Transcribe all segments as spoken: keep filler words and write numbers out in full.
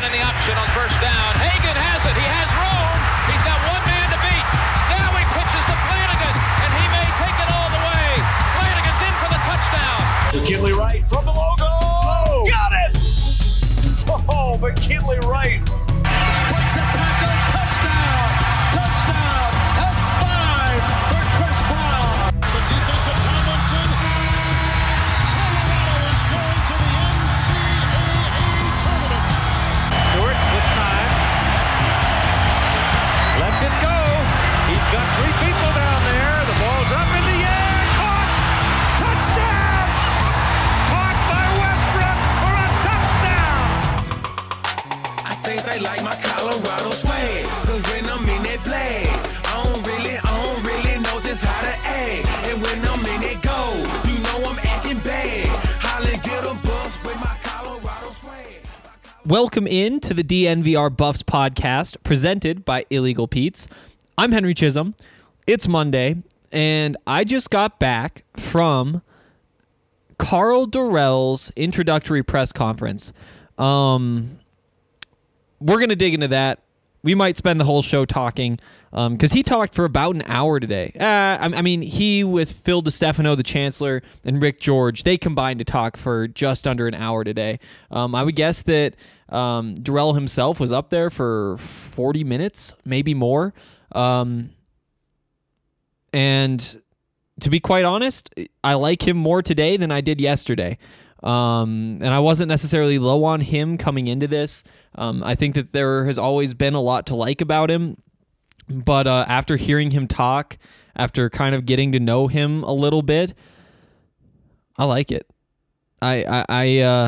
in the option on first down. Hagan has it. He has room. He's got one man to beat. Now he pitches to Flanagan, and he may take it all the way. Flanagan's in for the touchdown. McKinley Wright from the logo. Oh, got it! Oh, McKinley Wright. Breaks a tackle. Touchdown. Touchdown. That's five for Chris Brown. The defensive Tomlinson. Colorado is going to the N C double A tournament. Stewart with time. Lets it go. He's got three people down there. The ball's up in the air. Caught. Touchdown. Caught by Westbrook for a touchdown. I think they like my Colorado swag. Cause when I'm in that play, I don't really, I don't really know just how to act. And when I'm in it go, you know I'm acting bad. Holland get a bus with my Colorado swag. Welcome in to the D N V R Buffs podcast presented by Illegal Pete's. I'm Henry Chisholm. It's Monday, and I just got back from Karl Dorrell's introductory press conference. Um, we're going to dig into that. We might spend the whole show talking because um, he talked for about an hour today. Uh, I, I mean, he with Phil DeStefano, the chancellor, and Rick George, they combined to talk for just under an hour today. Um, I would guess that um, Dorrell himself was up there for forty minutes, maybe more. Um, and to be quite honest, I like him more today than I did yesterday. Um, and I wasn't necessarily low on him coming into this. Um, I think that there has always been a lot to like about him. But uh, after hearing him talk, after kind of getting to know him a little bit, I like it. I I I, uh,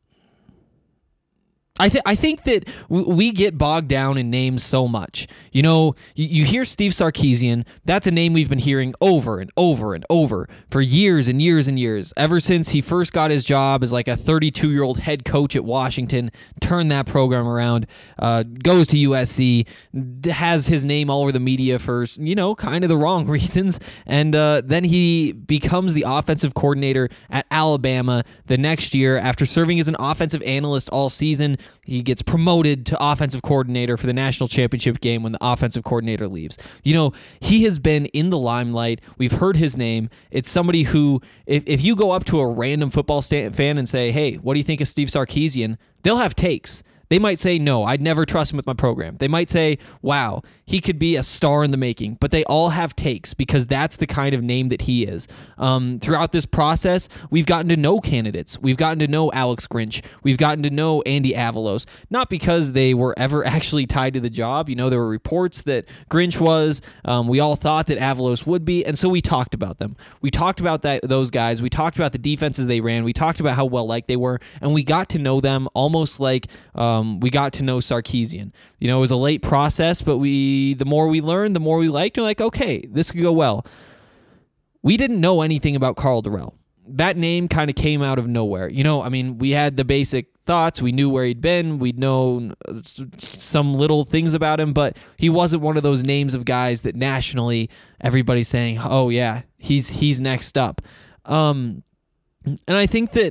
I, th- I think that w- we get bogged down in names so much. You know, you, you hear Steve Sarkisian, that's a name we've been hearing over and over and over for years and years and years, ever since he first got his job as like a thirty-two-year-old head coach at Washington, turned that program around, uh, goes to U S C, has his name all over the media for, you know, kind of the wrong reasons, and uh, then he becomes the offensive coordinator at Alabama the next year after serving as an offensive analyst all season. He gets promoted to offensive coordinator for the national championship game when the offensive coordinator leaves. You know, he has been in the limelight. We've heard his name. It's somebody who, if, if you go up to a random football sta- fan and say, hey, what do you think of Steve Sarkisian? They'll have takes. They might say, no, I'd never trust him with my program. They might say, wow, he could be a star in the making. But they all have takes because that's the kind of name that he is. Um, throughout this process, we've gotten to know candidates. We've gotten to know Alex Grinch. We've gotten to know Andy Avalos. Not because they were ever actually tied to the job. You know, there were reports that Grinch was. Um, we all thought that Avalos would be. And so we talked about them. We talked about that those guys. We talked about the defenses they ran. We talked about how well-liked they were. And we got to know them almost like... Um, Um, we got to know Sarkisian. You know, it was a late process, but we the more we learned, the more we liked. We're like, okay, this could go well. We didn't know anything about Karl Dorrell. That name kind of came out of nowhere. You know, I mean, we had the basic thoughts. We knew where he'd been. We'd known some little things about him, but he wasn't one of those names of guys that nationally everybody's saying, oh, yeah, he's he's next up. Um, and I think that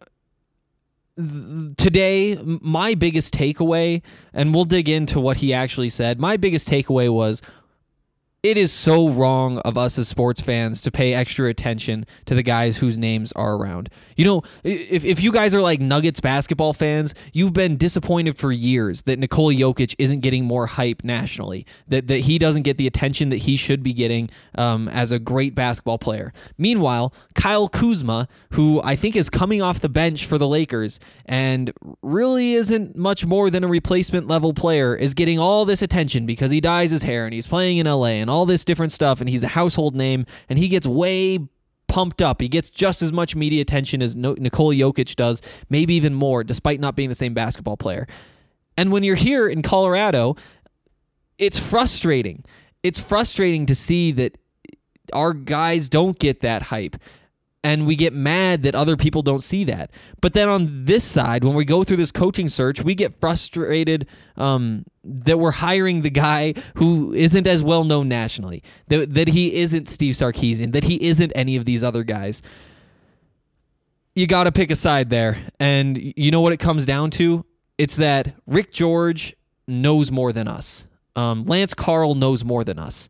today, my biggest takeaway, and we'll dig into what he actually said, my biggest takeaway was, it is so wrong of us as sports fans to pay extra attention to the guys whose names are around. You know, if if you guys are like Nuggets basketball fans, you've been disappointed for years that Nikola Jokic isn't getting more hype nationally, that, that he doesn't get the attention that he should be getting um, as a great basketball player. Meanwhile, Kyle Kuzma, who I think is coming off the bench for the Lakers and really isn't much more than a replacement level player, is getting all this attention because he dyes his hair and he's playing in L A and all this different stuff, and he's a household name, and he gets way pumped up. He gets just as much media attention as no- Nikola Jokic does, maybe even more, despite not being the same basketball player. And when you're here in Colorado, it's frustrating. It's frustrating to see that our guys don't get that hype. And we get mad that other people don't see that. But then on this side, when we go through this coaching search, we get frustrated um, that we're hiring the guy who isn't as well known nationally, that, that he isn't Steve Sarkisian, that he isn't any of these other guys. You got to pick a side there. And you know what it comes down to? it's that Rick George knows more than us. Um, Lance Carl knows more than us.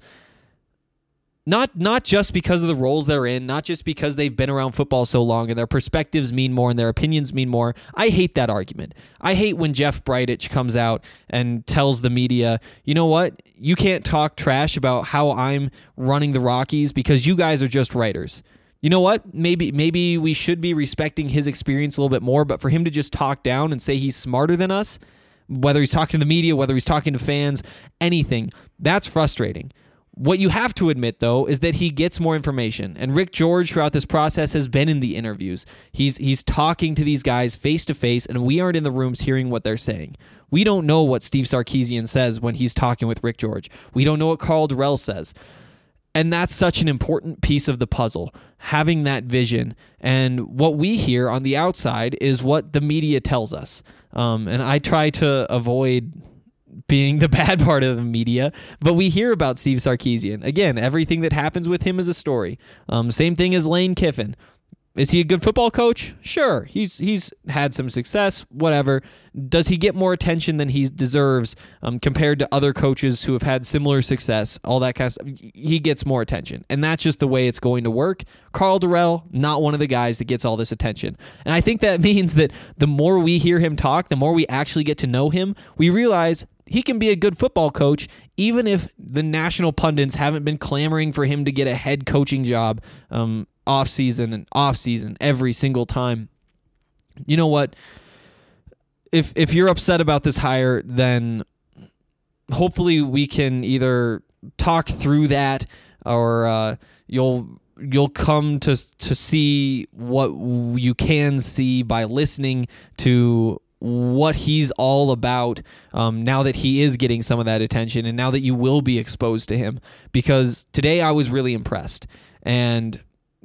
Not not just because of the roles they're in, not just because they've been around football so long and their perspectives mean more and their opinions mean more. I hate that argument. I hate when Jeff Bridich comes out and tells the media, you know what, you can't talk trash about how I'm running the Rockies because you guys are just writers. You know what? Maybe maybe we should be respecting his experience a little bit more, but for him to just talk down and say he's smarter than us, whether he's talking to the media, whether he's talking to fans, anything, that's frustrating. What you have to admit, though, is that he gets more information. And Rick George, throughout this process, has been in the interviews. He's he's talking to these guys face-to-face, and we aren't in the rooms hearing what they're saying. We don't know what Steve Sarkisian says when he's talking with Rick George. We don't know what Karl Dorrell says. And that's such an important piece of the puzzle, having that vision. And what we hear on the outside is what the media tells us. Um, and I try to avoid being the bad part of the media, but we hear about Steve Sarkisian. Again, everything that happens with him is a story. Um, same thing as Lane Kiffin. Is he a good football coach? Sure. He's he's had some success, whatever. Does he get more attention than he deserves um, compared to other coaches who have had similar success, all that kind of stuff? He gets more attention, and that's just the way it's going to work. Karl Dorrell, not one of the guys that gets all this attention. And I think that means that the more we hear him talk, the more we actually get to know him, we realize he can be a good football coach, even if the national pundits haven't been clamoring for him to get a head coaching job um, off season and off season every single time. You know what? If if you're upset about this hire, then hopefully we can either talk through that, or uh, you'll you'll come to to see what you can see by listening to what he's all about um, now that he is getting some of that attention, and now that you will be exposed to him. Because today I was really impressed, and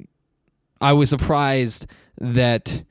I was surprised that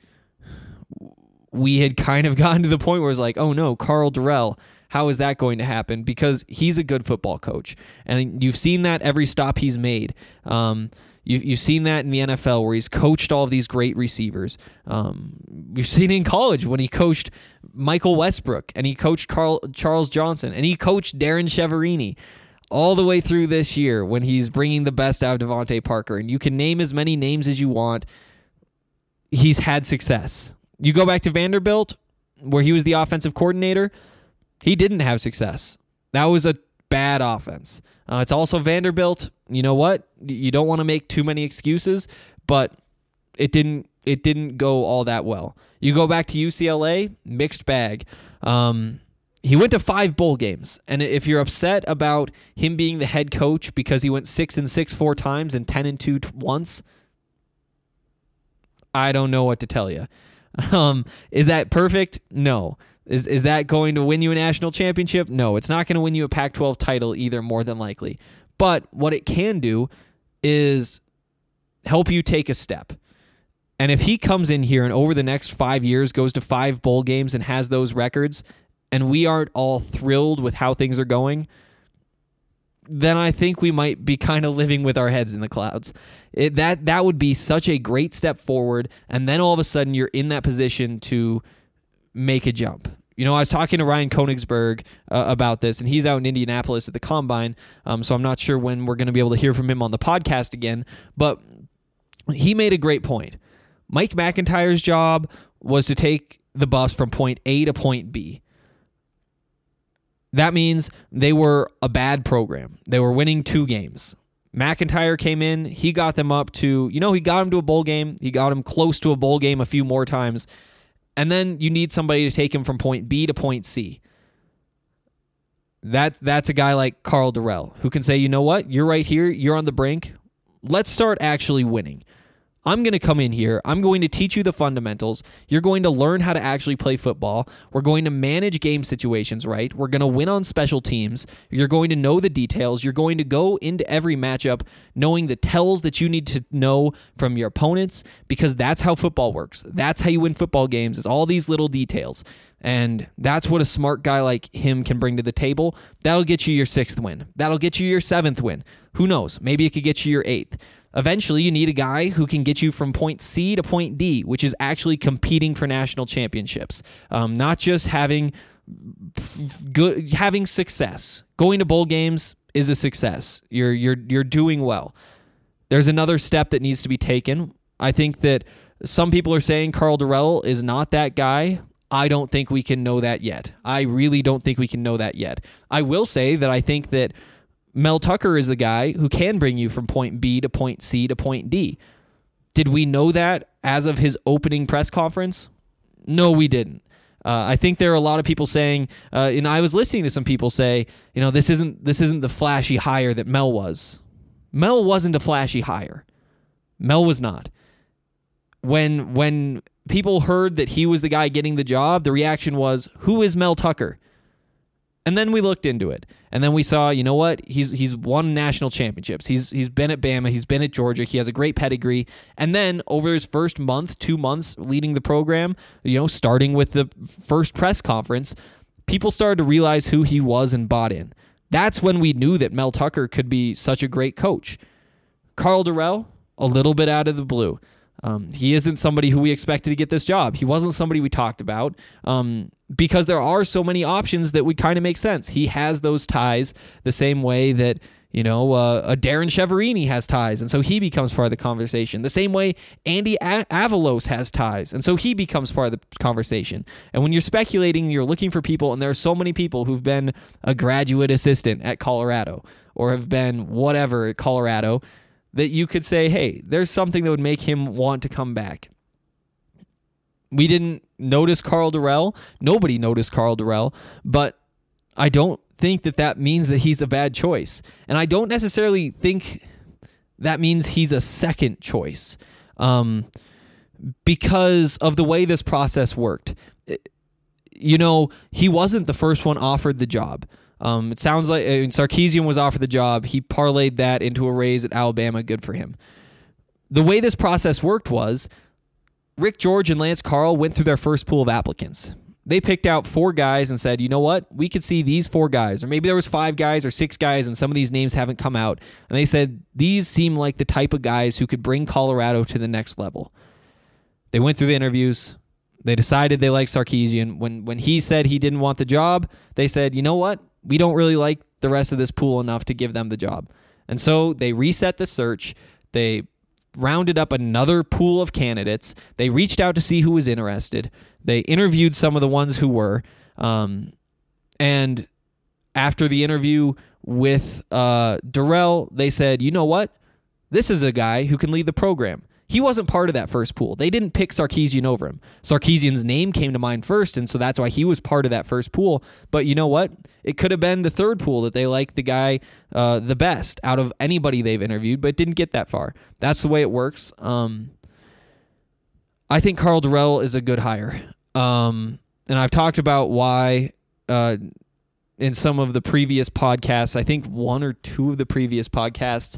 we had kind of gotten to the point where it's like, oh no, Karl Dorrell, how is that going to happen? Because he's a good football coach, and you've seen that every stop he's made. Um, you, you've seen that in the N F L where he's coached all of these great receivers. Um, you've seen it in college when he coached Michael Westbrook, and he coached Carl, Charles Johnson, and he coached Darren Chiaverini. All the way through this year when he's bringing the best out of Devontae Parker. And you can name as many names as you want. He's had success. You go back to Vanderbilt, where he was the offensive coordinator. He didn't have success. That was a bad offense. Uh, it's also Vanderbilt. You know what? You don't want to make too many excuses, but it didn't it didn't go all that well. You go back to U C L A, mixed bag. Um... He went to five bowl games, and if you're upset about him being the head coach because he went six and six four times and ten and two t- once, I don't know what to tell you. Um, is that perfect? No. Is is that going to win you a national championship? No, it's not going to win you a Pac twelve title either, more than likely. But what it can do is help you take a step. And if he comes in here and over the next five years goes to five bowl games and has those records, and we aren't all thrilled with how things are going, then I think we might be kind of living with our heads in the clouds. It, that that would be such a great step forward, and then all of a sudden you're in that position to make a jump. You know, I was talking to Ryan Koenigsberg uh, about this, and he's out in Indianapolis at the Combine, um, so I'm not sure when we're going to be able to hear from him on the podcast again, but he made a great point. Mike McIntyre's job was to take the bus from point A to point B. That means they were a bad program. They were winning two games. McIntyre came in. He got them up to, you know, he got them to a bowl game. He got them close to a bowl game a few more times. And then you need somebody to take him from point B to point C. That, that's a guy like Karl Dorrell who can say, you know what? You're right here. You're on the brink. Let's start actually winning. I'm going to come in here. I'm going to teach you the fundamentals. You're going to learn how to actually play football. We're going to manage game situations right. We're going to win on special teams. You're going to know the details. You're going to go into every matchup knowing the tells that you need to know from your opponents, because that's how football works. That's how you win football games, is all these little details. And that's what a smart guy like him can bring to the table. That'll get you your sixth win. That'll get you your seventh win. Who knows? Maybe it could get you your eighth. eventually you need a guy who can get you from point C to point D, which is actually competing for national championships, um, not just having good having success. Going to bowl games is a success. You're you're you're doing well. There's another step that needs to be taken. I think that some people are saying Karl Dorrell is not that guy. I don't think we can know that yet. I really don't think we can know that yet. I will say that I think that Mel Tucker is the guy who can bring you from point B to point C to point D. Did we know that as of his opening press conference? No, we didn't. Uh, I think there are a lot of people saying, uh, and I was listening to some people say, you know, this isn't this isn't the flashy hire that Mel was. Mel wasn't a flashy hire. Mel was not. When when people heard that he was the guy getting the job, the reaction was, who is Mel Tucker? And then we looked into it. And then we saw, you know what? He's he's won national championships. He's he's been at Bama. He's been at Georgia. He has a great pedigree. And then over his first month, two months leading the program, you know, starting with the first press conference, people started to realize who he was and bought in. That's when we knew that Mel Tucker could be such a great coach. Karl Dorrell, a little bit out of the blue. Um, he isn't somebody who we expected to get this job. He wasn't somebody we talked about um, because there are so many options that would kind of make sense. He has those ties the same way that, you know, uh, a Darren Cheverini has ties, and so he becomes part of the conversation. The same way Andy a- Avalos has ties, and so he becomes part of the conversation. And when you're speculating, you're looking for people, and there are so many people who've been a graduate assistant at Colorado or have been whatever at Colorado, that you could say, hey, there's something that would make him want to come back. We didn't notice Karl Dorrell. Nobody noticed Karl Dorrell, but I don't think that that means that he's a bad choice. And I don't necessarily think that means he's a second choice um, because of the way this process worked. You know, he wasn't the first one offered the job. Um, it sounds like uh, Sarkisian was offered the job. He parlayed that into a raise at Alabama. Good for him. The way this process worked was Rick George and Lance Carl went through their first pool of applicants. They picked out four guys and said, you know what? We could see these four guys, or maybe there was five guys or six guys, and some of these names haven't come out. And they said, these seem like the type of guys who could bring Colorado to the next level. They went through the interviews. They decided they liked Sarkisian. When, when he said he didn't want the job, they said, you know what? We don't really like the rest of this pool enough to give them the job. And so they reset the search. They rounded up another pool of candidates. They reached out to see who was interested. They interviewed some of the ones who were. Um, and after the interview with uh, Dorrell, they said, you know what? This is a guy who can lead the program. He wasn't part of that first pool. They didn't pick Sarkisian over him. Sarkisian's name came to mind first, and so that's why he was part of that first pool. But you know what? It could have been the third pool that they liked the guy uh, the best out of anybody they've interviewed, but didn't get that far. That's the way it works. Um, I think Karl Dorrell is a good hire. Um, and I've talked about why uh, in some of the previous podcasts. I think one or two of the previous podcasts.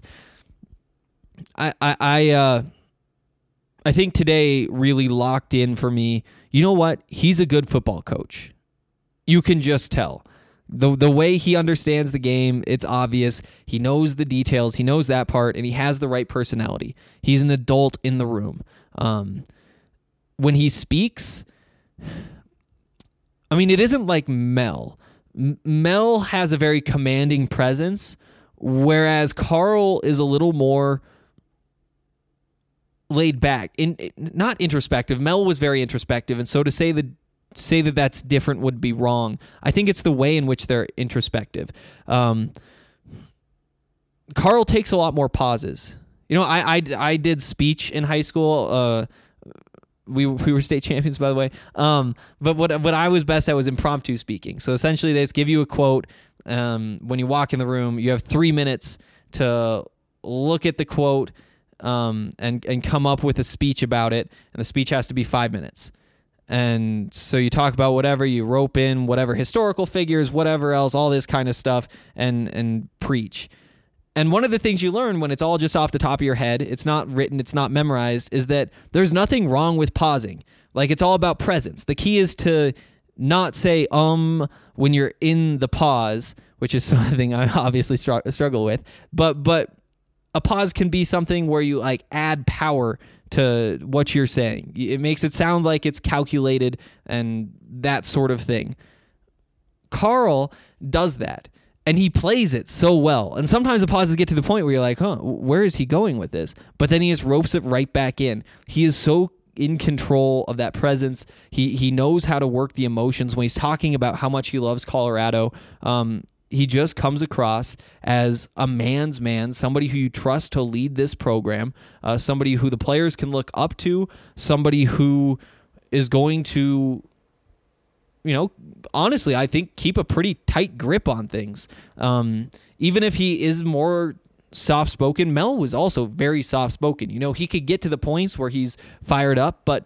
I, I, I uh, I think today really locked in for me. You know what? He's a good football coach. You can just tell. The the way he understands the game, it's obvious. He knows the details. He knows that part, and he has the right personality. He's an adult in the room. Um, when he speaks, I mean, it isn't like Mel. M- Mel has a very commanding presence, whereas Karl is a little more laid back, in not introspective. Mel was very introspective, and so to say that say that that's different would be wrong. I think it's the way in which they're introspective. Um, Karl takes a lot more pauses. You know, I I, I did speech in high school. Uh, we we were state champions, by the way. Um, but what what I was best at was impromptu speaking. So essentially, they just give you a quote. Um, when you walk in the room, you have three minutes to look at the quote. Um, and, and come up with a speech about it, and the speech has to be five minutes. And so you talk about whatever, you rope in whatever historical figures, whatever else, all this kind of stuff, and and preach. And one of the things you learn when it's all just off the top of your head, it's not written, it's not memorized, is that there's nothing wrong with pausing. Like, it's all about presence. The key is to not say um when you're in the pause, which is something I obviously str- struggle with, but but a pause can be something where you like add power to what you're saying. It makes it sound like it's calculated and that sort of thing. Carl does that, and he plays it so well. And sometimes the pauses get to the point where you're like, huh, where is he going with this? But then he just ropes it right back in. He is so in control of that presence. He he knows how to work the emotions when he's talking about how much he loves Colorado. Um, he just comes across as a man's man, somebody who you trust to lead this program, uh, somebody who the players can look up to, somebody who is going to, you know, honestly, I think keep a pretty tight grip on things. Um, even if he is more soft-spoken, Mel was also very soft-spoken. You know, he could get to the points where he's fired up, but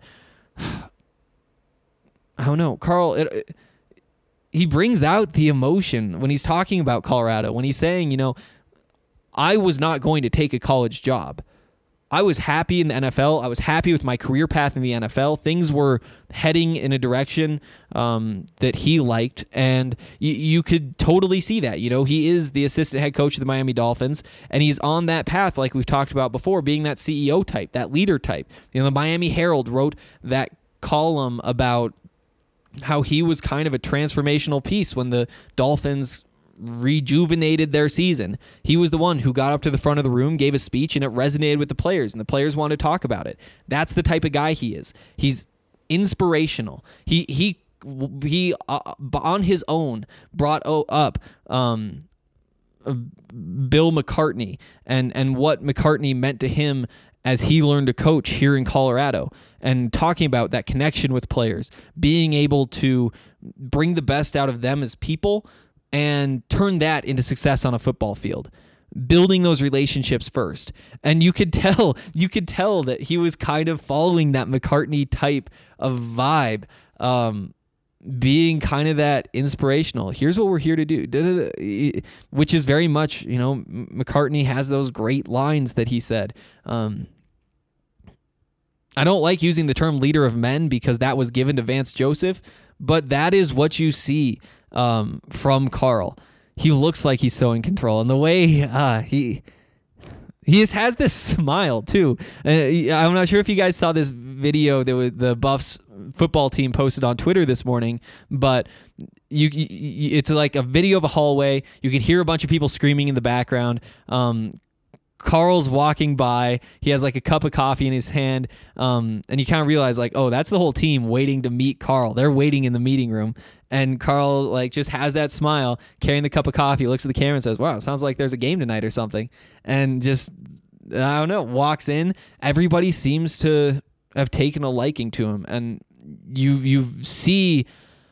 I don't know. Carl, it, it, he brings out the emotion when he's talking about Colorado, when he's saying, you know, I was not going to take a college job. I was happy in the N F L. I was happy with my career path in the N F L. Things were heading in a direction um, that he liked, and y- you could totally see that. You know, he is the assistant head coach of the Miami Dolphins, and he's on that path, like we've talked about before, being that C E O type, that leader type. You know, the Miami Herald wrote that column about how he was kind of a transformational piece when the Dolphins rejuvenated their season. He was the one who got up to the front of the room, gave a speech, and it resonated with the players, and the players wanted to talk about it. That's the type of guy he is. He's inspirational. He he he uh, on his own brought up um, Bill McCartney and and what McCartney meant to him as he learned to coach here in Colorado, and talking about that connection with players, being able to bring the best out of them as people and turn that into success on a football field, building those relationships first. And you could tell, you could tell that he was kind of following that McCartney type of vibe, um, being kind of that inspirational. Here's what we're here to do, which is very much, you know, McCartney has those great lines that he said. Um, I don't like using the term leader of men because that was given to Vance Joseph, but that is what you see Um, from Carl. He looks like he's so in control, and the way uh, he he just has this smile too. Uh, I'm not sure if you guys saw this video that the Buffs football team posted on Twitter this morning, but you, you it's like a video of a hallway. You can hear a bunch of people screaming in the background. Um, Carl's walking by. He has like a cup of coffee in his hand, um, and you kind of realize like, oh, that's the whole team waiting to meet Carl. They're waiting in the meeting room, and Carl like just has that smile, carrying the cup of coffee, looks at the camera and says, "Wow, sounds like there's a game tonight or something," and just I don't know, walks in. Everybody seems to have taken a liking to him, and you you see.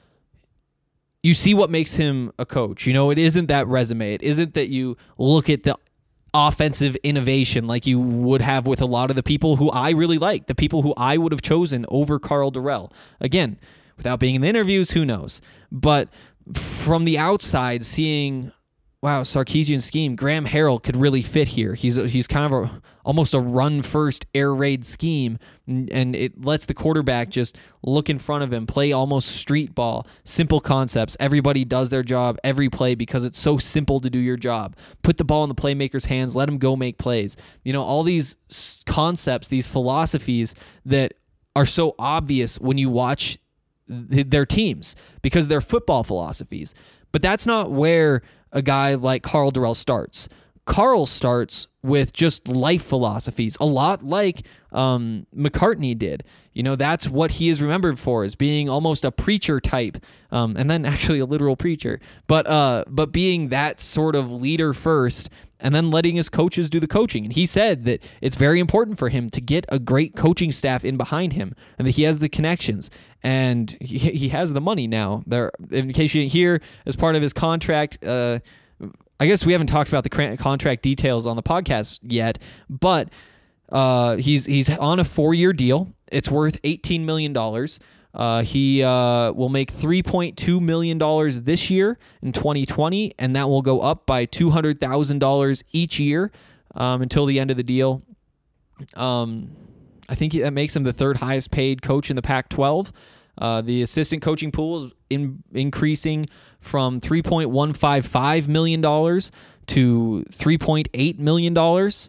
You see what makes him a coach. You know, it isn't that resume. It isn't that you look at the offensive innovation like you would have with a lot of the people who I really like, the people who I would have chosen over Karl Dorrell. Again, without being in the interviews, who knows? But from the outside, seeing, wow, Sarkisian scheme, Graham Harrell could really fit here. He's he's kind of a, almost a run-first air raid scheme, and it lets the quarterback just look in front of him, play almost street ball, simple concepts. Everybody does their job every play because it's so simple to do your job. Put the ball in the playmaker's hands, let him go make plays. You know, all these concepts, these philosophies that are so obvious when you watch their teams because they're football philosophies. But that's not where a guy like Karl Dorrell starts. Carl starts with just life philosophies, a lot like um, McCartney did. You know, that's what he is remembered for, as being almost a preacher type, um, and then actually a literal preacher, but uh, but being that sort of leader first, and then letting his coaches do the coaching. And he said that it's very important for him to get a great coaching staff in behind him, and that he has the connections, and he, he has the money now. There, in case you didn't hear, as part of his contract, uh, I guess we haven't talked about the contract details on the podcast yet, but uh, he's he's on a four-year deal. It's worth eighteen million dollars. Uh, he uh, will make three point two million dollars this year in twenty twenty, and that will go up by two hundred thousand dollars each year um, until the end of the deal. Um, I think that makes him the third highest paid coach in the Pac twelve. Uh, the assistant coaching pool is in, increasing from three point one five five million dollars to three point eight million dollars.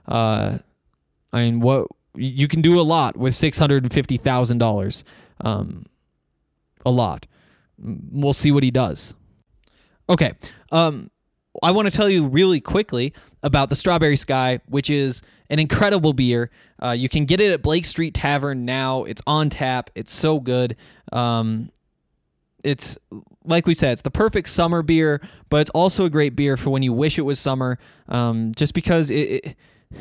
Uh, I mean, what you can do a lot with six hundred fifty thousand dollars. Um, a lot. We'll see what he does. Okay. Um, I want to tell you really quickly about the Strawberry Sky, which is an incredible beer. Uh, you can get it at Blake Street Tavern now. It's on tap. It's so good. Um, it's, like we said, it's the perfect summer beer, but it's also a great beer for when you wish it was summer, um, just because it, it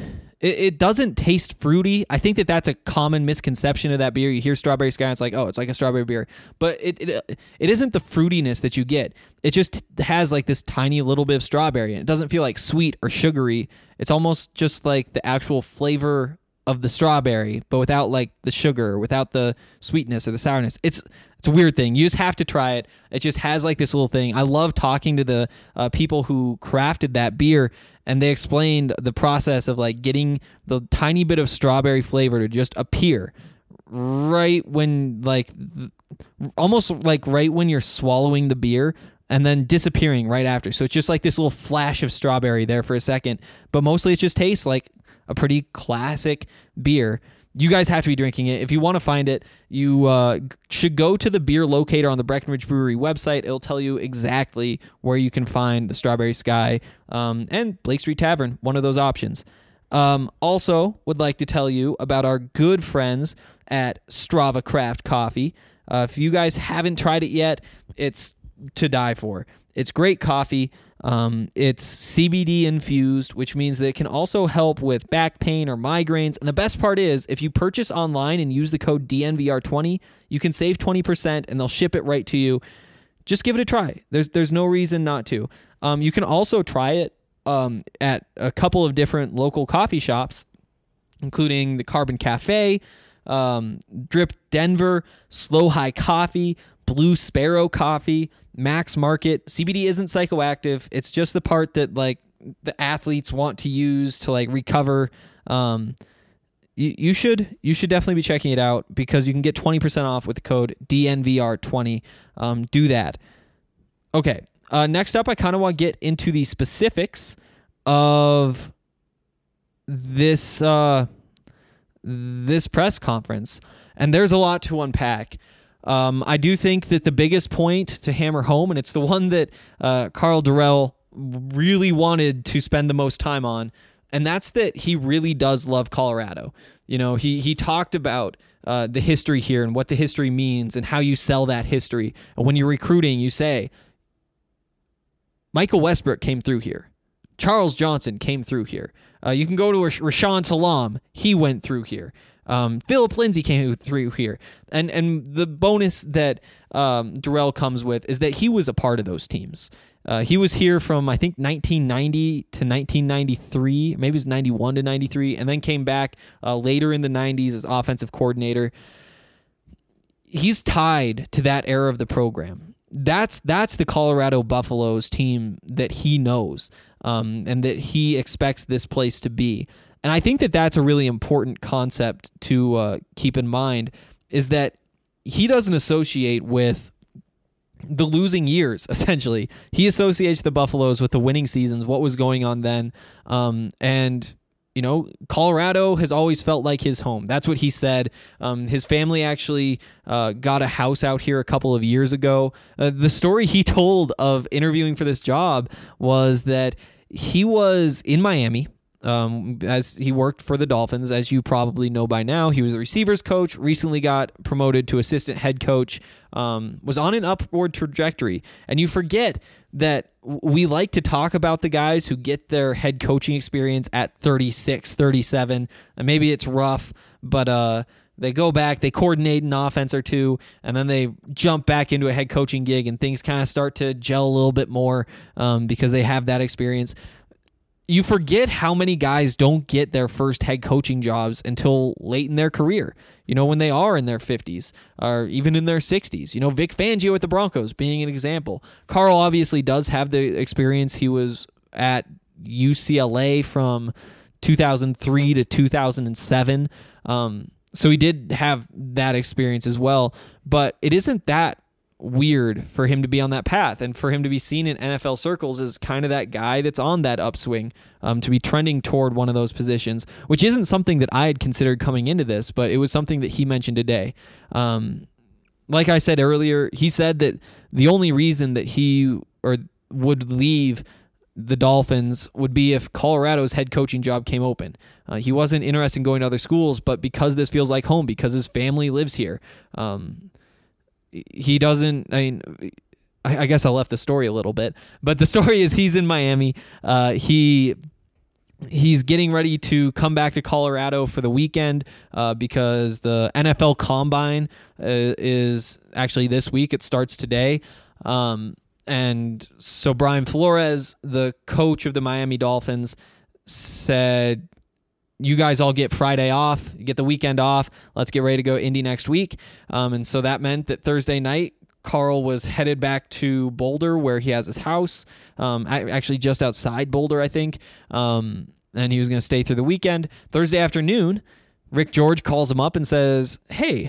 it doesn't taste fruity. I think that that's a common misconception of that beer. You hear Strawberry Sky, it's like, oh, it's like a strawberry beer. But it it, it isn't the fruitiness that you get. It just has like this tiny little bit of strawberry, and it doesn't feel like sweet or sugary. It's almost just like the actual flavor of the strawberry, but without like the sugar, without the sweetness or the sourness. It's it's a weird thing. You just have to try it. It just has like this little thing. I love talking to the uh, people who crafted that beer, and they explained the process of like getting the tiny bit of strawberry flavor to just appear right when like th- almost like right when you're swallowing the beer, and then disappearing right after. So it's just like this little flash of strawberry there for a second, but mostly it just tastes like a pretty classic beer. You guys have to be drinking it. If you want to find it, you uh, should go to the beer locator on the Breckenridge Brewery website. It'll tell you exactly where you can find the Strawberry Sky um, and Blake Street Tavern, one of those options. Um, also, would like to tell you about our good friends at Strava Craft Coffee. Uh, if you guys haven't tried it yet, it's to die for. It's great coffee. Um, it's C B D infused, which means that it can also help with back pain or migraines. And the best part is, if you purchase online and use the code D N V R twenty, you can save twenty percent and they'll ship it right to you. Just give it a try. There's there's no reason not to. Um, you can also try it um, at a couple of different local coffee shops, including the Carbon Cafe, um, Drip Denver, Slow High Coffee, Blue Sparrow Coffee, Max Market. C B D isn't psychoactive. It's just the part that like the athletes want to use to like recover. Um, you, you should you should definitely be checking it out because you can get twenty percent off with the code D N V R twenty. Um, do that. Okay. Uh, next up, I kind of want to get into the specifics of this uh, this press conference, and there's a lot to unpack. Um, I do think that the biggest point to hammer home, and it's the one that uh, Karl Dorrell really wanted to spend the most time on, and that's that he really does love Colorado. You know, he he talked about uh, the history here and what the history means and how you sell that history. And when you're recruiting, you say, Michael Westbrook came through here. Charles Johnson came through here. Uh, you can go to Rashawn Salam. He went through here. Um, Philip Lindsay came through here. And and the bonus that um, Dorrell comes with is that he was a part of those teams. Uh, he was here from, I think, nineteen ninety to nineteen ninety-three. Maybe it was ninety-one to ninety-three, and then came back uh, later in the nineties as offensive coordinator. He's tied to that era of the program. That's that's the Colorado Buffaloes team that he knows um, and that he expects this place to be. And I think that that's a really important concept to uh, keep in mind, is that he doesn't associate with the losing years, essentially. He associates the Buffaloes with the winning seasons, what was going on then. Um, and, you know, Colorado has always felt like his home. That's what he said. Um, his family actually uh, got a house out here a couple of years ago. Uh, the story he told of interviewing for this job was that he was in Miami, Um, as he worked for the Dolphins, as you probably know by now. He was a receivers coach, recently got promoted to assistant head coach, um, was on an upward trajectory. And you forget that we like to talk about the guys who get their head coaching experience at thirty-six, thirty-seven, and maybe it's rough, but uh, they go back, they coordinate an offense or two, and then they jump back into a head coaching gig, and things kind of start to gel a little bit more um, because they have that experience. You forget how many guys don't get their first head coaching jobs until late in their career, you know, when they are in their fifties or even in their sixties. You know, Vic Fangio with the Broncos being an example. Karl obviously does have the experience. He was at U C L A from two thousand three to two thousand seven. Um, so he did have that experience as well, but it isn't that weird for him to be on that path and for him to be seen in N F L circles as kind of that guy that's on that upswing, um, to be trending toward one of those positions, which isn't something that I had considered coming into this, but it was something that he mentioned today. Um, like I said earlier, he said that the only reason that he or would leave the Dolphins would be if Colorado's head coaching job came open. Uh, he wasn't interested in going to other schools, but because this feels like home, because his family lives here, um, he doesn't, I mean, I, I guess I left the story a little bit, but the story is he's in Miami. Uh, he he's getting ready to come back to Colorado for the weekend uh, because the N F L Combine uh, is actually this week. It starts today. Um, and so Brian Flores, the coach of the Miami Dolphins, said, you guys all get Friday off, you get the weekend off. Let's get ready to go Indy next week. Um, and so that meant that Thursday night, Carl was headed back to Boulder, where he has his house, um, actually just outside Boulder, I think. Um, and he was going to stay through the weekend. Thursday afternoon, Rick George calls him up and says, hey,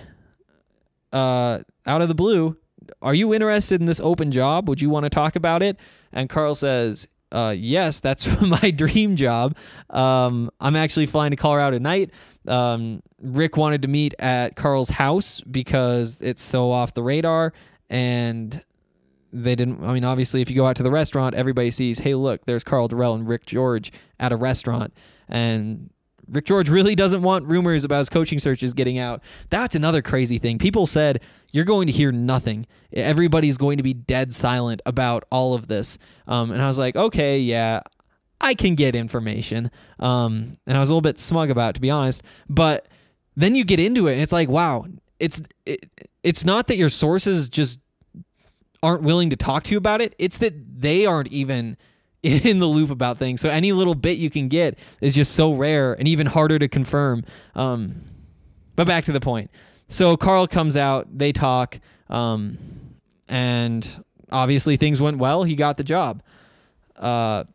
uh, out of the blue, are you interested in this open job? Would you want to talk about it? And Carl says, uh, yes, that's my dream job. Um, I'm actually flying to Colorado tonight. Um, Rick wanted to meet at Carl's house because it's so off the radar, and they didn't, I mean, obviously if you go out to the restaurant, everybody sees, hey, look, there's Karl Dorrell and Rick George at a restaurant. And Rick George really doesn't want rumors about his coaching searches getting out. That's another crazy thing. People said, you're going to hear nothing. Everybody's going to be dead silent about all of this. Um, and I was like, okay, yeah, I can get information. Um, and I was a little bit smug about it, to be honest. But then you get into it, and it's like, wow, it's it, it's not that your sources just aren't willing to talk to you about it. It's that they aren't even in the loop about things. So any little bit you can get is just so rare and even harder to confirm. Um, but back to the point. So Carl comes out, they talk, um, and obviously things went well. He got the job. Uh,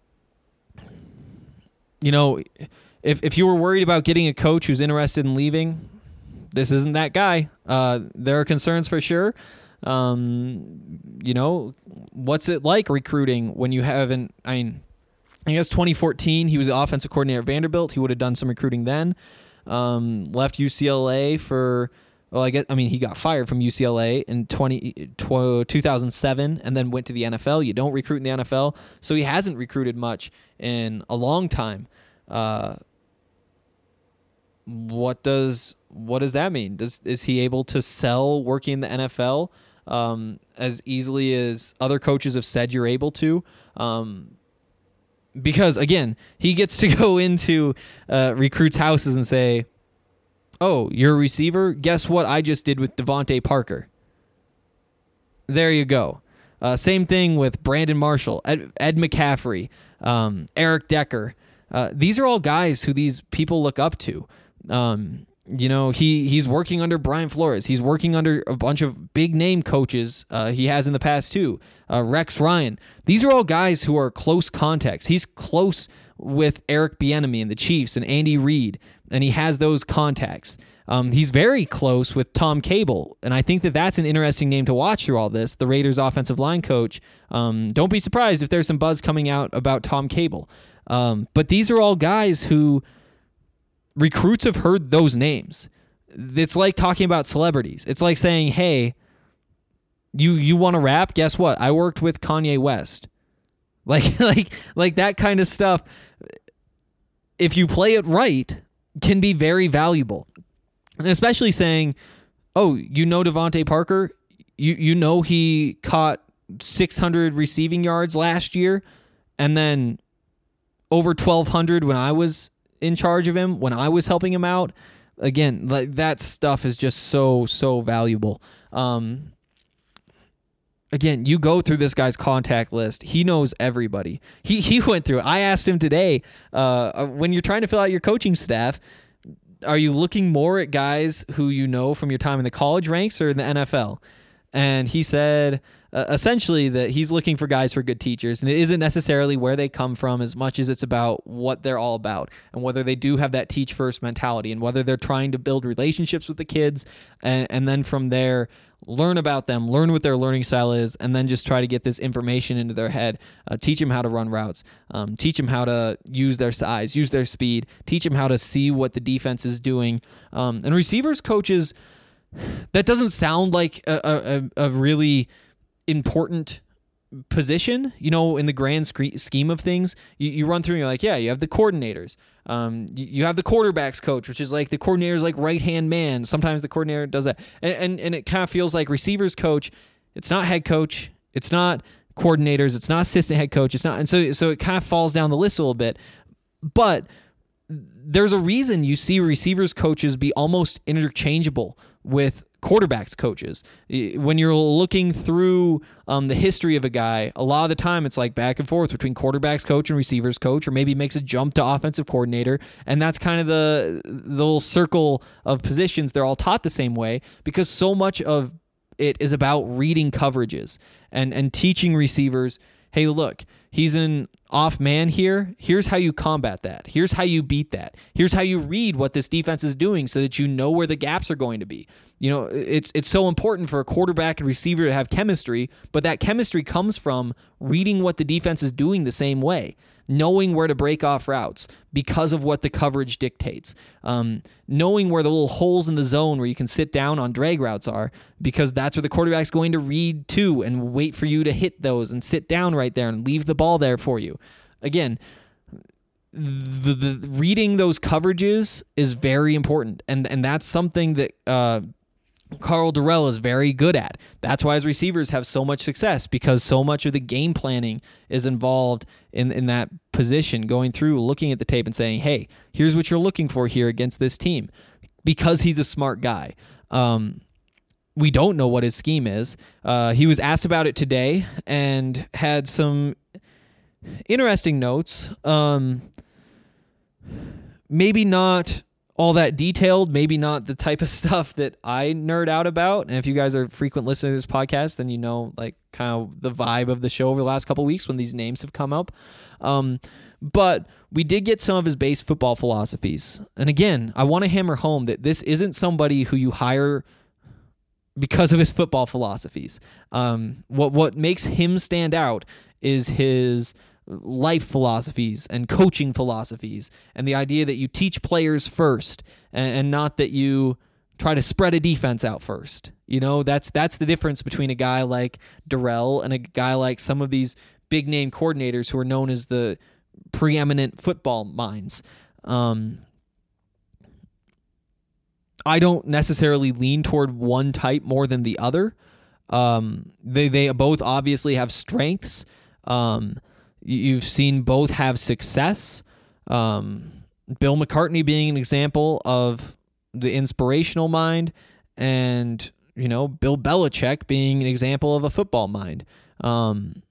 you know, if if you were worried about getting a coach who's interested in leaving, this isn't that guy. Uh, there are concerns for sure. Um, you know, what's it like recruiting when you haven't, I mean, I guess twenty fourteen, he was the offensive coordinator at Vanderbilt. He would have done some recruiting then. Um, left U C L A for, well, I guess, I mean, he got fired from U C L A in twenty, two thousand seven and then went to the N F L. You don't recruit in the N F L. So he hasn't recruited much in a long time. Uh, what does, what does that mean? Does, is he able to sell working in the N F L? Um, as easily as other coaches have said you're able to, um, because again, he gets to go into uh, recruits' houses and say, "Oh, you're a receiver? Guess what I just did with Devontae Parker." There you go. Uh, same thing with Brandon Marshall, Ed, Ed McCaffrey, um, Eric Decker. Uh, these are all guys who these people look up to. Um, You know, he, he's working under Brian Flores. He's working under a bunch of big name coaches uh, he has in the past too. Uh, Rex Ryan. These are all guys who are close contacts. He's close with Eric Bieniemy and the Chiefs and Andy Reid, and he has those contacts. Um, he's very close with Tom Cable, and I think that that's an interesting name to watch through all this, the Raiders offensive line coach. Um, don't be surprised if there's some buzz coming out about Tom Cable. Um, but these are all guys who recruits have heard those names. It's like talking about celebrities. It's like saying, hey, you you want to rap? Guess what? I worked with Kanye West. Like like like that kind of stuff, if you play it right, can be very valuable. And especially saying, oh, you know Devontae Parker? You you know he caught six hundred receiving yards last year and then over twelve hundred when I was in charge of him, when I was helping him out. Again, like that stuff is just so, so valuable. Um, again, you go through this guy's contact list. He knows everybody. He he went through it. I asked him today, uh, when you're trying to fill out your coaching staff, are you looking more at guys who you know from your time in the college ranks or in the N F L? and he said uh, essentially that he's looking for guys for good teachers, and it isn't necessarily where they come from as much as it's about what they're all about and whether they do have that teach first mentality and whether they're trying to build relationships with the kids and, and then from there learn about them, learn what their learning style is, and then just try to get this information into their head, uh, teach them how to run routes, um, teach them how to use their size, use their speed, teach them how to see what the defense is doing. Um, and receivers coaches, that doesn't sound like a, a, a really important position, you know, in the grand scheme of things. You, you run through and you're like, yeah, you have the coordinators. Um, you, you have the quarterbacks coach, which is like the coordinator's like right-hand man. Sometimes the coordinator does that. And, and, and it kind of feels like receivers coach, it's not head coach, it's not coordinators, it's not assistant head coach, it's not, and so, so it kind of falls down the list a little bit. But there's a reason you see receivers coaches be almost interchangeable with quarterbacks coaches. When you're looking through um, the history of a guy, a lot of the time it's like back and forth between quarterbacks coach and receivers coach, or maybe makes a jump to offensive coordinator, and that's kind of the, the little circle of positions. They're all taught the same way because so much of it is about reading coverages and, and teaching receivers, hey, look, he's an off man here. Here's how you combat that. Here's how you beat that. Here's how you read what this defense is doing so that you know where the gaps are going to be. You know, it's it's so important for a quarterback and receiver to have chemistry, but that chemistry comes from reading what the defense is doing the same way, knowing where to break off routes because of what the coverage dictates, um, knowing where the little holes in the zone where you can sit down on drag routes are because that's where the quarterback's going to read to and wait for you to hit those and sit down right there and leave the ball there for you. Again, the, the reading those coverages is very important, and and that's something that uh, Karl Dorrell is very good at. That's why his receivers have so much success, because so much of the game planning is involved in, in that position, going through, looking at the tape and saying, hey, here's what you're looking for here against this team, because he's a smart guy. Um, we don't know what his scheme is. Uh, he was asked about it today and had some interesting notes. Um, maybe not all that detailed, maybe not the type of stuff that I nerd out about. And if you guys are frequent listeners to this podcast, then you know, like, kind of the vibe of the show over the last couple of weeks when these names have come up. Um, but we did get some of his base football philosophies. And again, I want to hammer home that this isn't somebody who you hire because of his football philosophies. Um, what what makes him stand out is his life philosophies and coaching philosophies, and the idea that you teach players first and, and not that you try to spread a defense out first. You know, that's that's the difference between a guy like Dorrell and a guy like some of these big name coordinators who are known as the preeminent football minds. Um, I don't necessarily lean toward one type more than the other. Um, they they both obviously have strengths. Um, You've seen both have success. Um, Bill McCartney being an example of the inspirational mind, and, you know, Bill Belichick being an example of a football mind. Um,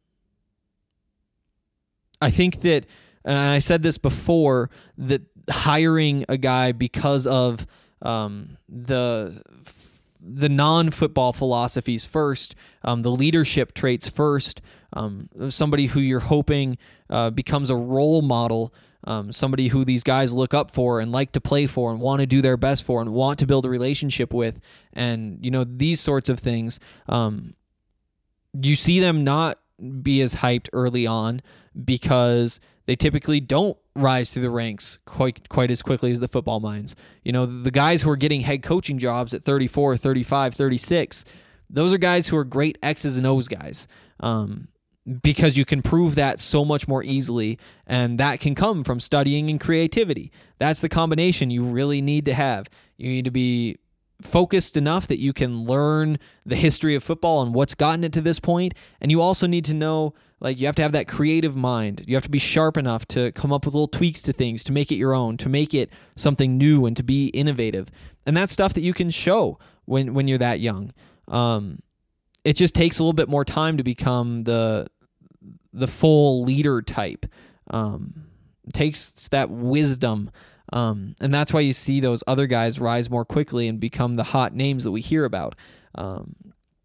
I think that, and I said this before, that hiring a guy because of um, the the non-football philosophies first, um, the leadership traits first, um, somebody who you're hoping uh, becomes a role model, um, somebody who these guys look up for and like to play for and want to do their best for and want to build a relationship with, and, you know, these sorts of things. Um, you see them not be as hyped early on because they typically don't rise through the ranks quite quite as quickly as the football minds. You know, the guys who are getting head coaching jobs at thirty-four, thirty-five, thirty-six, those are guys who are great X's and O's guys, um, because you can prove that so much more easily, and that can come from studying and creativity. That's the combination you really need to have. You need to be focused enough that you can learn the history of football and what's gotten it to this point, and you also need to know, like, you have to have that creative mind. You have to be sharp enough to come up with little tweaks to things, to make it your own, to make it something new and to be innovative. And that's stuff that you can show when, when you're that young. Um, it just takes a little bit more time to become the the full leader type. Um, it takes that wisdom. Um, and that's why you see those other guys rise more quickly and become the hot names that we hear about. Um,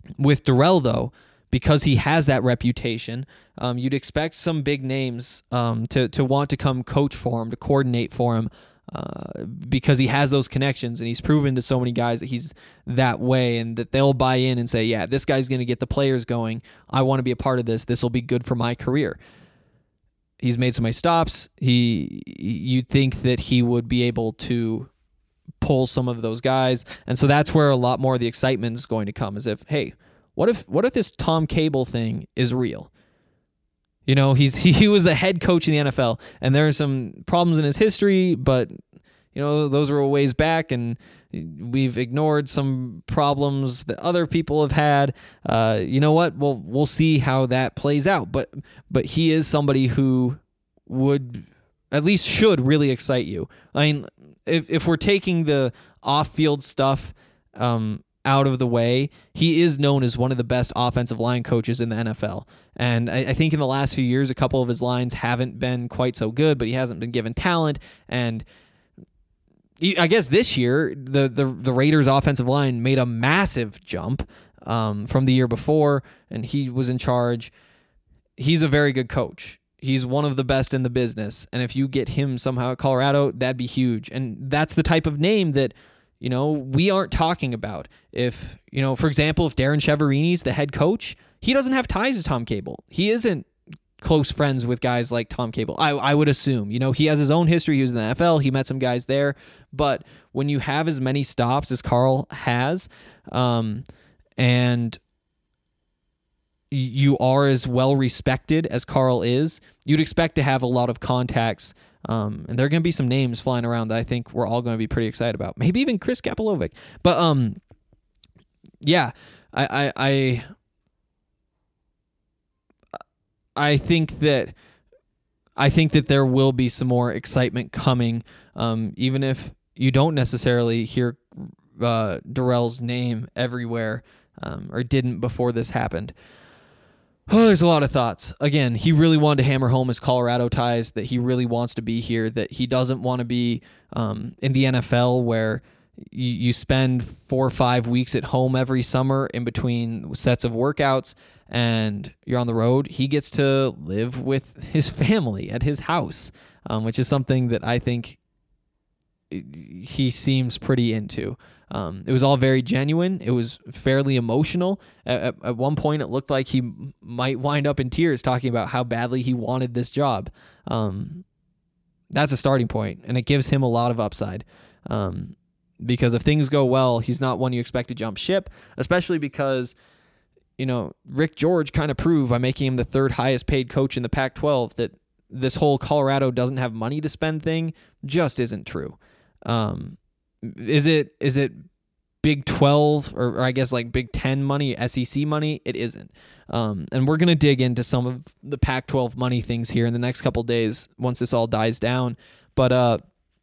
With Dorrell, though, because he has that reputation, um, you'd expect some big names um, to to want to come coach for him, to coordinate for him, uh, because he has those connections and he's proven to so many guys that he's that way and that they'll buy in and say, yeah, this guy's going to get the players going. I want to be a part of this. This will be good for my career. He's made so many stops. He, you'd think that he would be able to pull some of those guys, and so that's where a lot more of the excitement is going to come. As if, hey, what if what if this Tom Cable thing is real? You know, he's he was a head coach in the N F L, and there are some problems in his history, but you know those were a ways back, and we've ignored some problems that other people have had. Uh, you know what? Well, we'll see how that plays out. But but he is somebody who would at least should really excite you. I mean, if if we're taking the off-field stuff um, out of the way, he is known as one of the best offensive line coaches in the N F L. And I, I think in the last few years, a couple of his lines haven't been quite so good, but he hasn't been given talent. And I guess this year, the, the, the Raiders' offensive line made a massive jump um, from the year before, and he was in charge. He's a very good coach. He's one of the best in the business. And if you get him somehow at Colorado, that'd be huge. And that's the type of name that, you know, we aren't talking about. If, you know, for example, if Darren Chiaverini's the head coach, he doesn't have ties to Tom Cable. He isn't close friends with guys like Tom Cable. I, I would assume, you know, he has his own history. He was in the N F L. He met some guys there. But when you have as many stops as Carl has, um, and you are as well respected as Carl is, you'd expect to have a lot of contacts. Um, and there are going to be some names flying around that I think we're all going to be pretty excited about. Maybe even Chris Kapilovic. But um, yeah, I, I, I, I think that I think that there will be some more excitement coming, um, even if you don't necessarily hear uh, Dorrell's name everywhere, um, or didn't before this happened. Oh, there's a lot of thoughts. Again, he really wanted to hammer home his Colorado ties, that he really wants to be here, that he doesn't want to be um, in the N F L where you, you spend four or five weeks at home every summer in between sets of workouts and you're on the road. He gets to live with his family at his house, um, which is something that I think he seems pretty into. Um, it was all very genuine. It was fairly emotional. At, at, at one point, it looked like he m- might wind up in tears talking about how badly he wanted this job. Um, that's a starting point, and it gives him a lot of upside. Um, because if things go well, he's not one you expect to jump ship, especially because, you know, Rick George kind of proved by making him the third highest paid coach in the Pac twelve that this whole Colorado doesn't have money to spend thing just isn't true. Um, Is it is it Big twelve or, or I guess like Big ten money, S E C money? It isn't. Um, and we're going to dig into some of the Pac twelve money things here in the next couple days once this all dies down. But uh,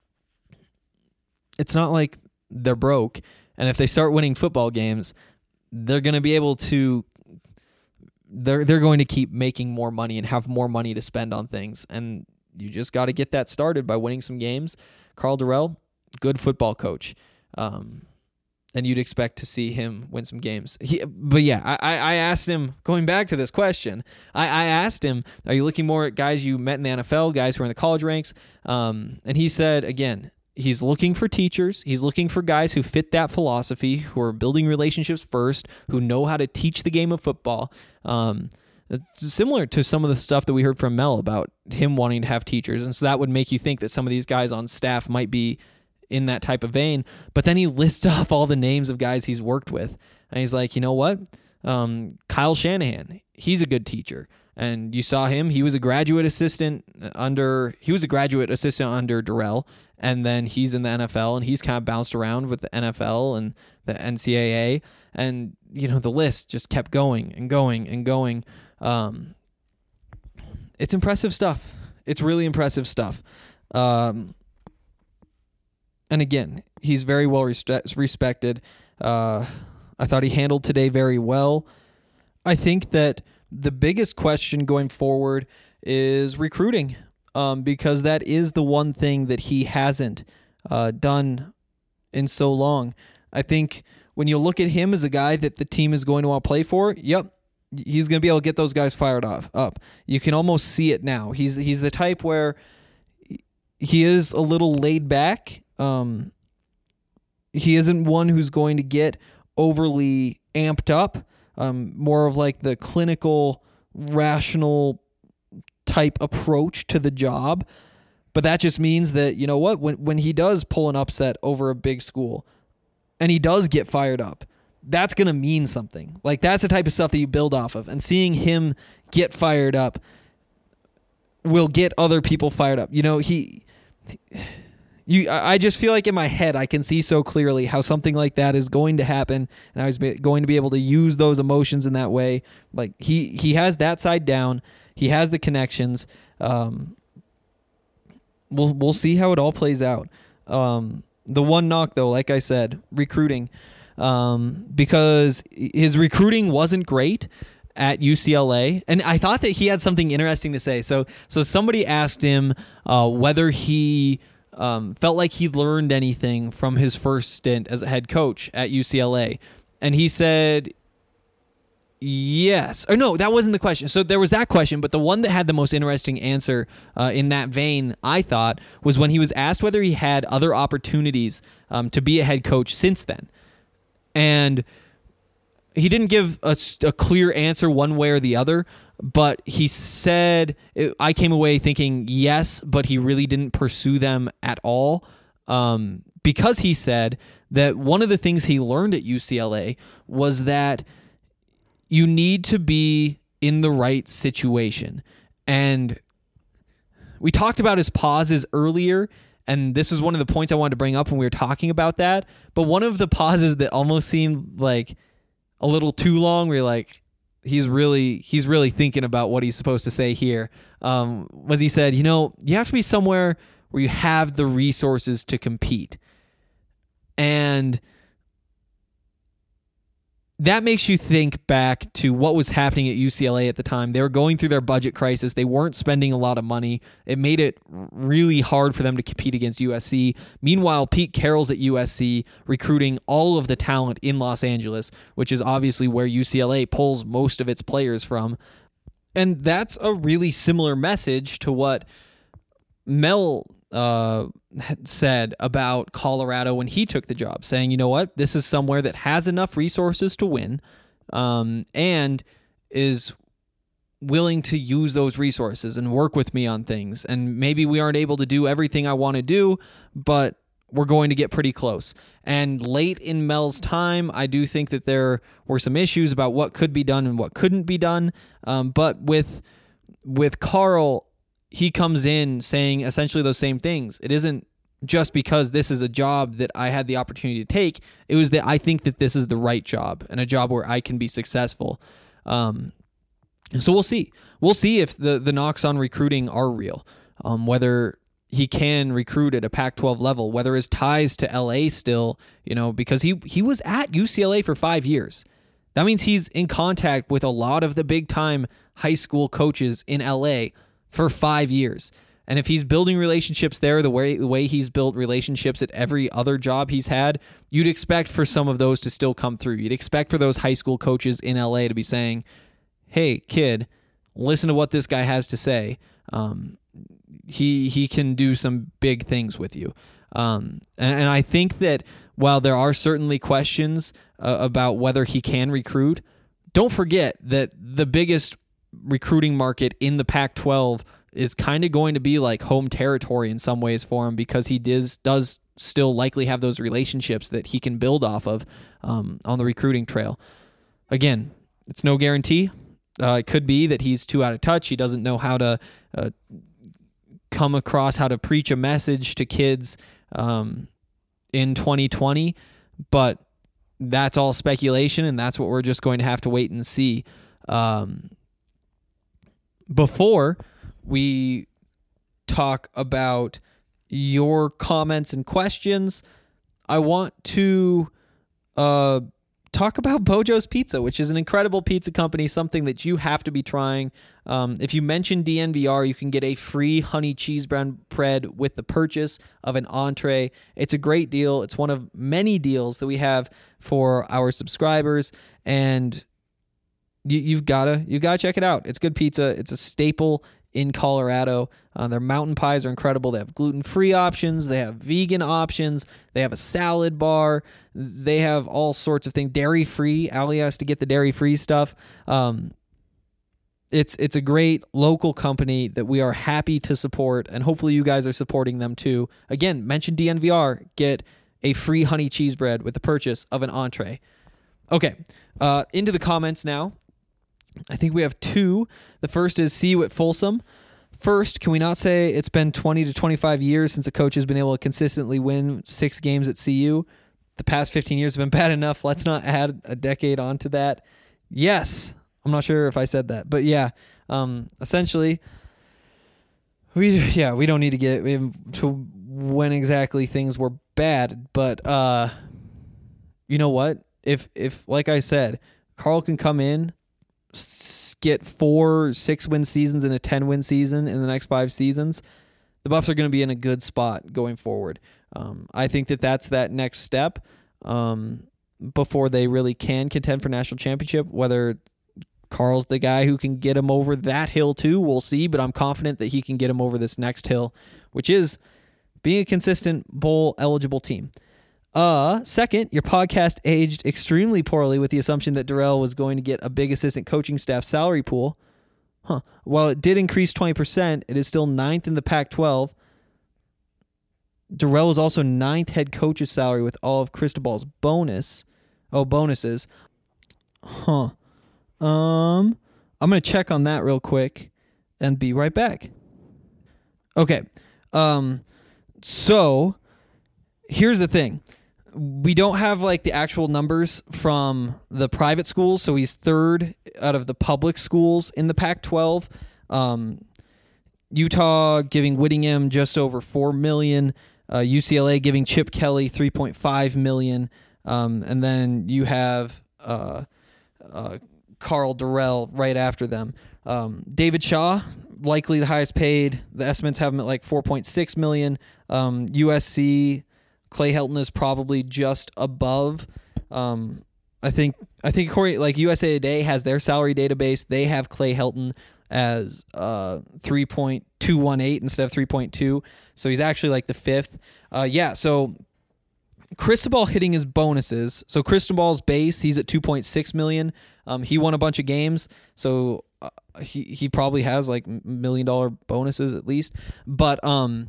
it's not like they're broke. And if they start winning football games, they're going to be able to they're they're going to keep making more money and have more money to spend on things. And you just got to get that started by winning some games. Karl Dorrell, good football coach, um, and you'd expect to see him win some games. He, but yeah, I, I asked him, going back to this question, I, I asked him, are you looking more at guys you met in the N F L, guys who are in the college ranks? Um, and he said, again, he's looking for teachers. He's looking for guys who fit that philosophy, who are building relationships first, who know how to teach the game of football. Um, It's similar to some of the stuff that we heard from Mel about him wanting to have teachers. And so that would make you think that some of these guys on staff might be in that type of vein. But then he lists off all the names of guys he's worked with. And he's like, you know what? Um, Kyle Shanahan, he's a good teacher. And you saw him. He was a graduate assistant under, he was a graduate assistant under Dorrell. And then he's in the N F L, and he's kind of bounced around with the N F L and the N C double A. And, you know, the list just kept going and going and going. Um, it's impressive stuff. It's really impressive stuff. Um, and again, he's very well respe- respected. Uh, I thought he handled today very well. I think that the biggest question going forward is recruiting, um, because that is the one thing that he hasn't uh, done in so long. I think when you look at him as a guy that the team is going to want to play for, yep, he's going to be able to get those guys fired off up. You can almost see it now. He's he's the type where he is a little laid back. Um, he isn't one who's going to get overly amped up. Um, more of like the clinical, rational type approach to the job. But that just means that, you know what, when when he does pull an upset over a big school and he does get fired up, that's going to mean something. Like, that's the type of stuff that you build off of. And seeing him get fired up will get other people fired up. You know, he... You, I just feel like in my head I can see so clearly how something like that is going to happen, and I was going to be able to use those emotions in that way. Like, he, he has that side down. He has the connections. Um, we'll we'll see how it all plays out. Um, the one knock, though, like I said, recruiting, um, because his recruiting wasn't great at U C L A, and I thought that he had something interesting to say. So so somebody asked him uh, whether he um, felt like he learned anything from his first stint as a head coach at U C L A, and he said yes. Or no, that wasn't the question. So there was that question, but the one that had the most interesting answer uh, in that vein, I thought, was when he was asked whether he had other opportunities um, to be a head coach since then. And he didn't give a, a clear answer one way or the other, but he said, I came away thinking yes, but he really didn't pursue them at all, um, because he said that one of the things he learned at U C L A was that you need to be in the right situation. And we talked about his pauses earlier, and this is one of the points I wanted to bring up when we were talking about that, but one of the pauses that almost seemed like a little too long, where you're like, he's really he's really thinking about what he's supposed to say here, um, was he said, you know, you have to be somewhere where you have the resources to compete. And that makes you think back to what was happening at U C L A at the time. They were going through their budget crisis. They weren't spending a lot of money. It made it really hard for them to compete against U S C. Meanwhile, Pete Carroll's at U S C recruiting all of the talent in Los Angeles, which is obviously where U C L A pulls most of its players from. And that's a really similar message to what Mel uh, said about Colorado when he took the job, saying, you know what, this is somewhere that has enough resources to win, um, and is willing to use those resources and work with me on things. And maybe we aren't able to do everything I want to do, but we're going to get pretty close. And late in Mel's time, I do think that there were some issues about what could be done and what couldn't be done. Um, but with with Carl, he comes in saying essentially those same things. It isn't just because this is a job that I had the opportunity to take. It was that I think that this is the right job and a job where I can be successful. Um, so we'll see. We'll see if the, the knocks on recruiting are real, um, whether he can recruit at a Pac twelve level, whether his ties to L A still, you know, because he, he was at U C L A for five years. That means he's in contact with a lot of the big-time high school coaches in L A for five years. And if he's building relationships there the way the way he's built relationships at every other job he's had, you'd expect for some of those to still come through. You'd expect for those high school coaches in L A to be saying, hey, kid, listen to what this guy has to say. Um, he he can do some big things with you. Um, and, and I think that while there are certainly questions uh, about whether he can recruit, don't forget that the biggest recruiting market in the Pac twelve is kind of going to be like home territory in some ways for him, because he does does still likely have those relationships that he can build off of um, on the recruiting trail. Again, it's no guarantee. Uh, it could be that he's too out of touch. He doesn't know how to uh, come across, how to preach a message to kids um, in twenty twenty, but that's all speculation, and that's what we're just going to have to wait and see. Um, Before we talk about your comments and questions, I want to uh, talk about Bojo's Pizza, which is an incredible pizza company, something that you have to be trying. Um, if you mention D N V R, you can get a free honey cheese bread with the purchase of an entree. It's a great deal. It's one of many deals that we have for our subscribers, and you, you've gotta you gotta check it out. It's good pizza. It's a staple in Colorado. Uh, their mountain pies are incredible. They have gluten-free options. They have vegan options. They have a salad bar. They have all sorts of things. Dairy-free. Ali has to get the dairy-free stuff. Um, it's it's a great local company that we are happy to support, and hopefully you guys are supporting them too. Again, mention D N V R. Get a free honey cheese bread with the purchase of an entree. Okay, uh, into the comments now. I think we have two. The first is see you at Folsom. First, can we not say it's been twenty to twenty-five years since a coach has been able to consistently win six games at C U? The past fifteen years have been bad enough. Let's not add a decade onto that. Yes. I'm not sure if I said that, but yeah. Um, essentially, we yeah we don't need to get to when exactly things were bad, but uh, you know what? If if like I said, Carl can come in, get four six-win seasons and a ten-win season in the next five seasons, the Buffs are going to be in a good spot going forward. Um, I think that that's that next step um, before they really can contend for national championship. Whether Carl's the guy who can get him over that hill too, we'll see, but I'm confident that he can get him over this next hill, which is being a consistent bowl-eligible team. Uh, second, your podcast aged extremely poorly with the assumption that Darrell was going to get a big assistant coaching staff salary pool. Huh. While it did increase twenty percent, it is still ninth in the Pac twelve. Darrell is also ninth head coach's salary with all of Cristobal's bonus. Oh, bonuses. Huh. Um, I'm going to check on that real quick and be right back. Okay. Um, so here's the thing. We don't have like the actual numbers from the private schools, so he's third out of the public schools in the Pac twelve. Um, Utah giving Whittingham just over four million dollars, uh, U C L A giving Chip Kelly three point five million dollars, um, and then you have uh, uh, Carl Darrell right after them. Um, David Shaw, likely the highest paid. The estimates have him at like four point six million dollars. Um, U S C, Clay Helton is probably just above. Um, I think I think Corey, like U S A Today has their salary database. They have Clay Helton as uh, three point two one eight instead of three point two. So he's actually like the fifth. Uh, yeah, so Cristobal hitting his bonuses. So Cristobal's base, he's at two point six million dollars. Um, he won a bunch of games, so uh, he he probably has like million dollar bonuses at least. But um.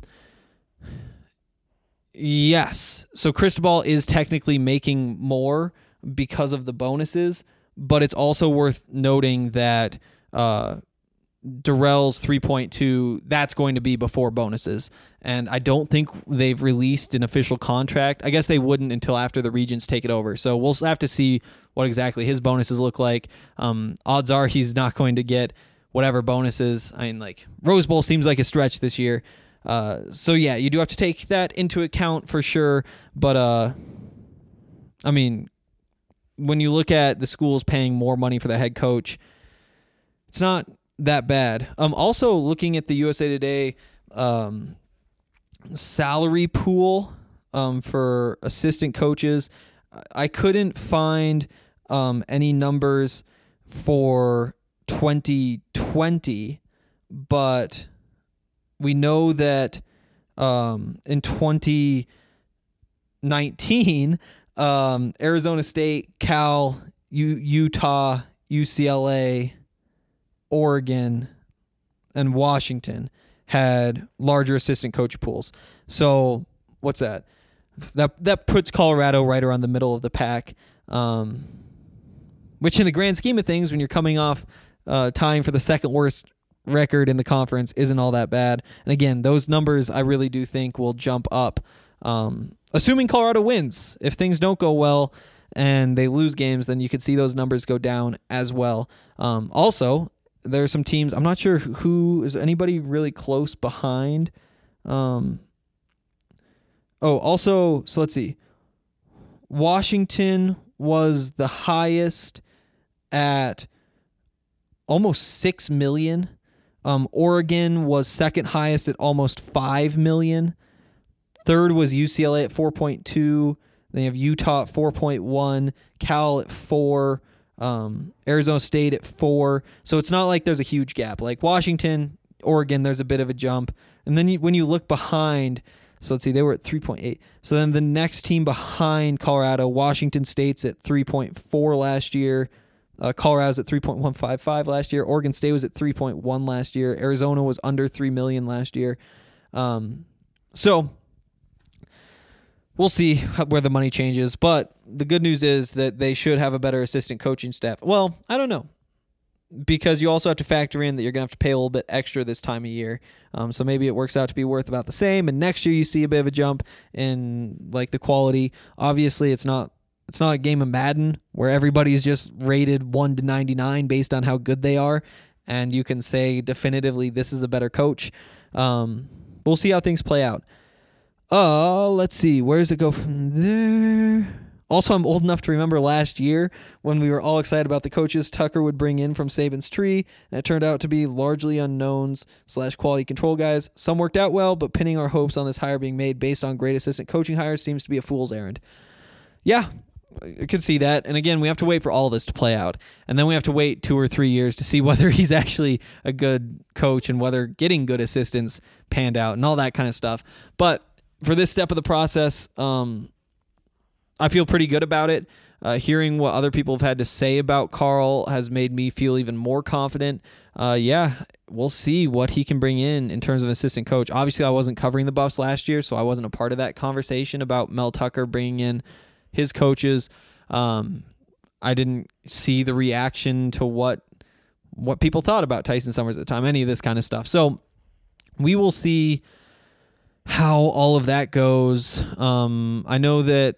Yes. So Cristobal is technically making more because of the bonuses, but it's also worth noting that uh, Darrell's three point two, that's going to be before bonuses. And I don't think they've released an official contract. I guess they wouldn't until after the Regents take it over. So we'll have to see what exactly his bonuses look like. Um, odds are he's not going to get whatever bonuses. I mean, like, Rose Bowl seems like a stretch this year. Uh, so yeah, you do have to take that into account for sure. But, uh, I mean, when you look at the schools paying more money for the head coach, it's not that bad. Um, also looking at the U S A Today, um, salary pool, um, for assistant coaches, I couldn't find, um, any numbers for twenty twenty, but we know that um, in twenty nineteen, um, Arizona State, Cal, U- Utah, U C L A, Oregon, and Washington had larger assistant coach pools. So what's that? That that puts Colorado right around the middle of the pack, um, which in the grand scheme of things, when you're coming off uh, tying for the second worst record in the conference, isn't all that bad. And again, those numbers I really do think will jump up, um, assuming Colorado wins. If things don't go well and they lose games, then you could see those numbers go down as well. Um, also, there are some teams, I'm not sure who, is anybody really close behind? Um, oh, also, so let's see. Washington, was the highest at almost six million. Um, Oregon was second highest at almost five million. Third was U C L A at four point two. Then you have Utah at four point one, Cal at four, um, Arizona State at four. So it's not like there's a huge gap. Like Washington, Oregon, there's a bit of a jump. And then you, when you look behind, so let's see, they were at three point eight. So then the next team behind Colorado, Washington State's at three point four last year. Uh, Colorado's at three point one five five last year. Oregon State was at three point one last year. Arizona was under three million last year. Um, so we'll see how, where the money changes. But the good news is that they should have a better assistant coaching staff. Well, I don't know, because you also have to factor in that you're going to have to pay a little bit extra this time of year. Um, so maybe it works out to be worth about the same. And next year you see a bit of a jump in like the quality. Obviously, it's not it's not a game of Madden where everybody's just rated one to ninety-nine based on how good they are, and you can say definitively this is a better coach. Um, we'll see how things play out. Uh, let's see. Where does it go from there? Also, I'm old enough to remember last year when we were all excited about the coaches Tucker would bring in from Saban's tree, and it turned out to be largely unknowns slash quality control guys. Some worked out well, but pinning our hopes on this hire being made based on great assistant coaching hires seems to be a fool's errand. Yeah, I could see that. And again, we have to wait for all this to play out. And then we have to wait two or three years to see whether he's actually a good coach and whether getting good assistants panned out and all that kind of stuff. But for this step of the process, um, I feel pretty good about it. Uh, hearing what other people have had to say about Carl has made me feel even more confident. Uh, yeah, we'll see what he can bring in in terms of assistant coach. Obviously, I wasn't covering the Buffs last year, so I wasn't a part of that conversation about Mel Tucker bringing in his coaches. Um, I didn't see the reaction to what what people thought about Tyson Summers at the time, any of this kind of stuff. So we will see how all of that goes. Um, I know that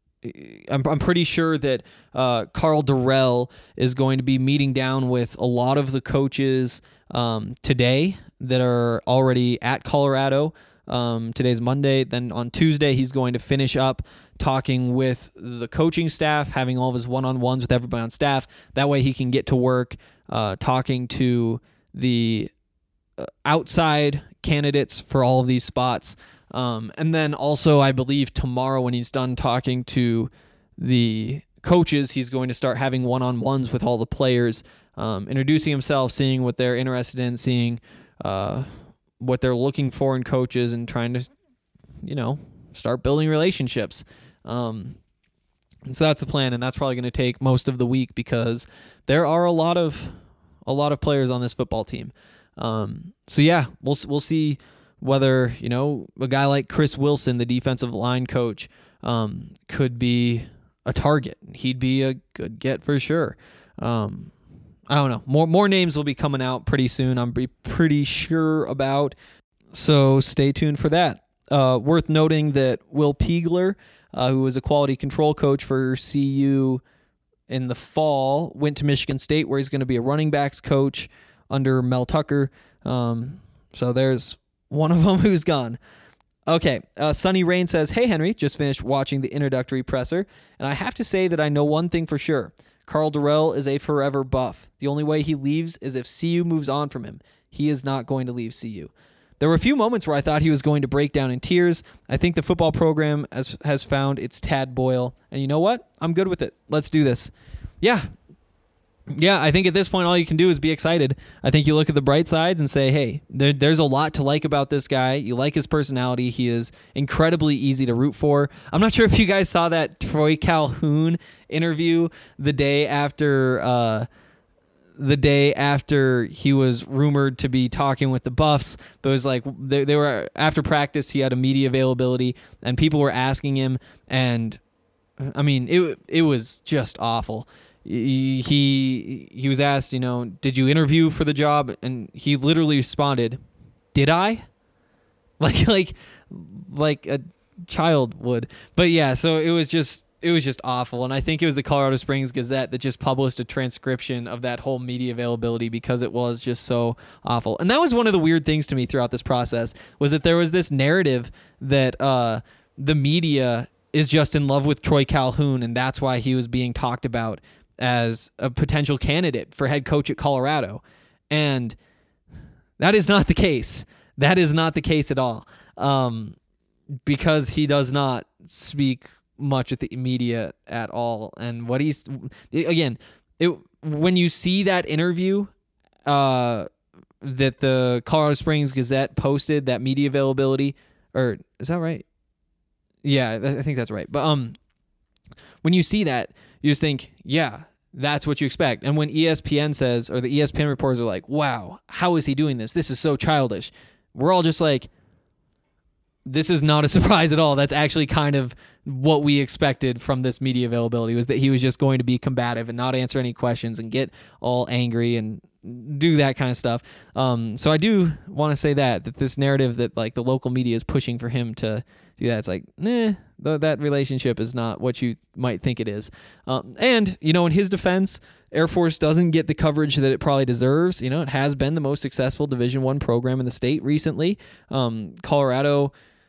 I'm, I'm pretty sure that uh, Karl Dorrell is going to be meeting down with a lot of the coaches um, today that are already at Colorado. Um, today's Monday. Then on Tuesday, he's going to finish up talking with the coaching staff, having all of his one-on-ones with everybody on staff. That way he can get to work uh, talking to the uh, outside candidates for all of these spots. Um, and then also, I believe tomorrow when he's done talking to the coaches, he's going to start having one-on-ones with all the players, um, introducing himself, seeing what they're interested in, seeing uh, what they're looking for in coaches, and trying to, you know, start building relationships. Um, and so that's the plan, and that's probably going to take most of the week because there are a lot of a lot of players on this football team. Um, so yeah, we'll we'll see whether, you know, a guy like Chris Wilson, the defensive line coach, um, could be a target. He'd be a good get for sure. Um, I don't know. More more names will be coming out pretty soon. I'm be pretty sure about. So stay tuned for that. Uh, worth noting that Will Peagler, uh, who was a quality control coach for C U in the fall, went to Michigan State, where he's going to be a running backs coach under Mel Tucker. Um, so there's one of them who's gone. Okay, uh, Sunny Rain says, "Hey Henry, just finished watching the introductory presser, and I have to say that I know one thing for sure. Karl Dorrell is a forever Buff. The only way he leaves is if C U moves on from him. He is not going to leave C U." There were a few moments where I thought he was going to break down in tears. I think the football program has, has found its Tad Boyle. And you know what? I'm good with it. Let's do this. Yeah. Yeah, I think at this point all you can do is be excited. I think you look at the bright sides and say, hey, there, there's a lot to like about this guy. You like his personality. He is incredibly easy to root for. I'm not sure if you guys saw that Troy Calhoun interview the day after uh, the day after he was rumored to be talking with the Buffs. But it was like they, they were after practice. He had a media availability, and people were asking him, and I mean, it it was just awful. He he was asked, you know, did you interview for the job? And he literally responded, "Did I?" Like like like a child would. But yeah, so it was just it was just awful. And I think it was the Colorado Springs Gazette that just published a transcription of that whole media availability because it was just so awful. And that was one of the weird things to me throughout this process, was that there was this narrative that uh, the media is just in love with Troy Calhoun, and that's why he was being talked about as a potential candidate for head coach at Colorado. And that is not the case. That is not the case at all. Um, because he does not speak much with the media at all. And what he's, again, it, when you see that interview uh, that the Colorado Springs Gazette posted, that media availability, or is that right? Yeah, I think that's right. But um, when you see that, you just think, yeah, that's what you expect. And when E S P N says, or the E S P N reporters are like, wow, how is he doing this? This is so childish. We're all just like, this is not a surprise at all. That's actually kind of what we expected from this media availability, was that he was just going to be combative and not answer any questions and get all angry and do that kind of stuff. Um, so I do want to say that, that this narrative that like the local media is pushing for him to do that, it's like, nah, th- that relationship is not what you might think it is. Um, and, you know, in his defense, Air Force doesn't get the coverage that it probably deserves. You know, it has been the most successful Division One program in the state recently. Um, Colorado,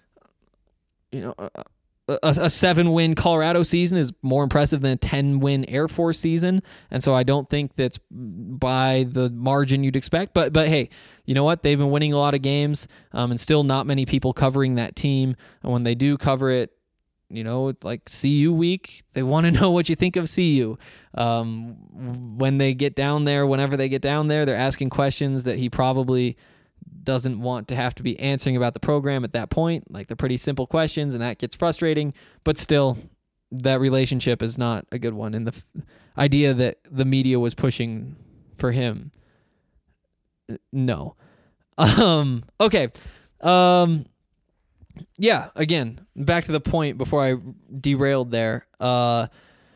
you know, a, a, a seven-win Colorado season is more impressive than a ten-win Air Force season, and so I don't think that's by the margin you'd expect. But but hey, you know what? They've been winning a lot of games, um, and still not many people covering that team. And when they do cover it, you know, like C U week, they want to know what you think of C U. Um, when they get down there, whenever they get down there, they're asking questions that he probably doesn't want to have to be answering about the program at that point. Like, they're pretty simple questions, and that gets frustrating. But still, that relationship is not a good one. And the f- idea that the media was pushing for him, no. Um, okay. Um, yeah, again, back to the point before I derailed there. Uh,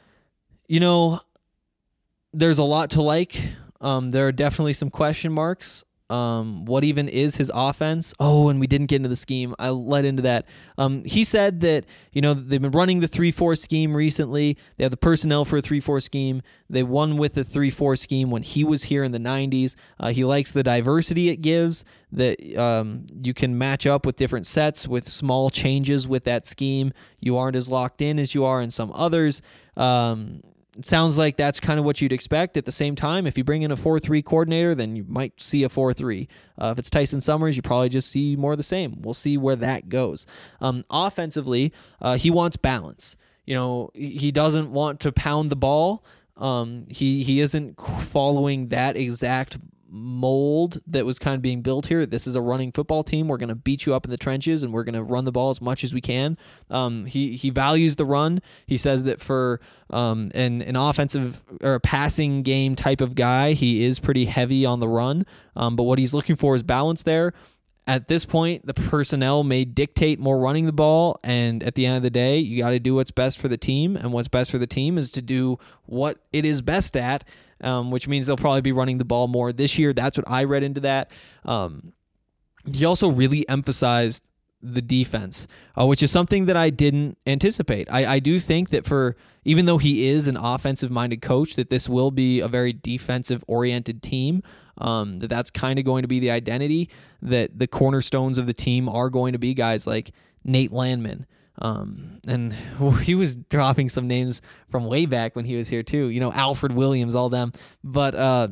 you know, there's a lot to like. Um, there are definitely some question marks. Um, what even is his offense? Oh, and we didn't get into the scheme. I led into that. Um, he said that, you know, they've been running the three four scheme recently. They have the personnel for a three four scheme. They won with the three four scheme when he was here in the nineties. Uh, he likes the diversity it gives, that um, you can match up with different sets with small changes with that scheme. You aren't as locked in as you are in some others. Um, It sounds like that's kind of what you'd expect. At the same time, if you bring in a four three coordinator, then you might see a four three. Uh, if it's Tyson Summers, you probably just see more of the same. We'll see where that goes. Um, offensively, uh, he wants balance. You know, he doesn't want to pound the ball. Um, he he isn't following that exact mold that was kind of being built here. This is a running football team. We're going to beat you up in the trenches, and we're going to run the ball as much as we can. Um, he he values the run. He says that for um, an an offensive or a passing game type of guy, he is pretty heavy on the run. Um, but what he's looking for is balance there. At this point, the personnel may dictate more running the ball, and at the end of the day, you got to do what's best for the team, and what's best for the team is to do what it is best at, um, which means they'll probably be running the ball more this year. That's what I read into that. Um, he also really emphasized the defense, uh, which is something that I didn't anticipate. I, I do think that for, even though he is an offensive-minded coach, that this will be a very defensive-oriented team. Um, that that's kind of going to be the identity, that the cornerstones of the team are going to be guys like Nate Landman. Um, and he was dropping some names from way back when he was here too, you know, Alfred Williams, all them, but, uh,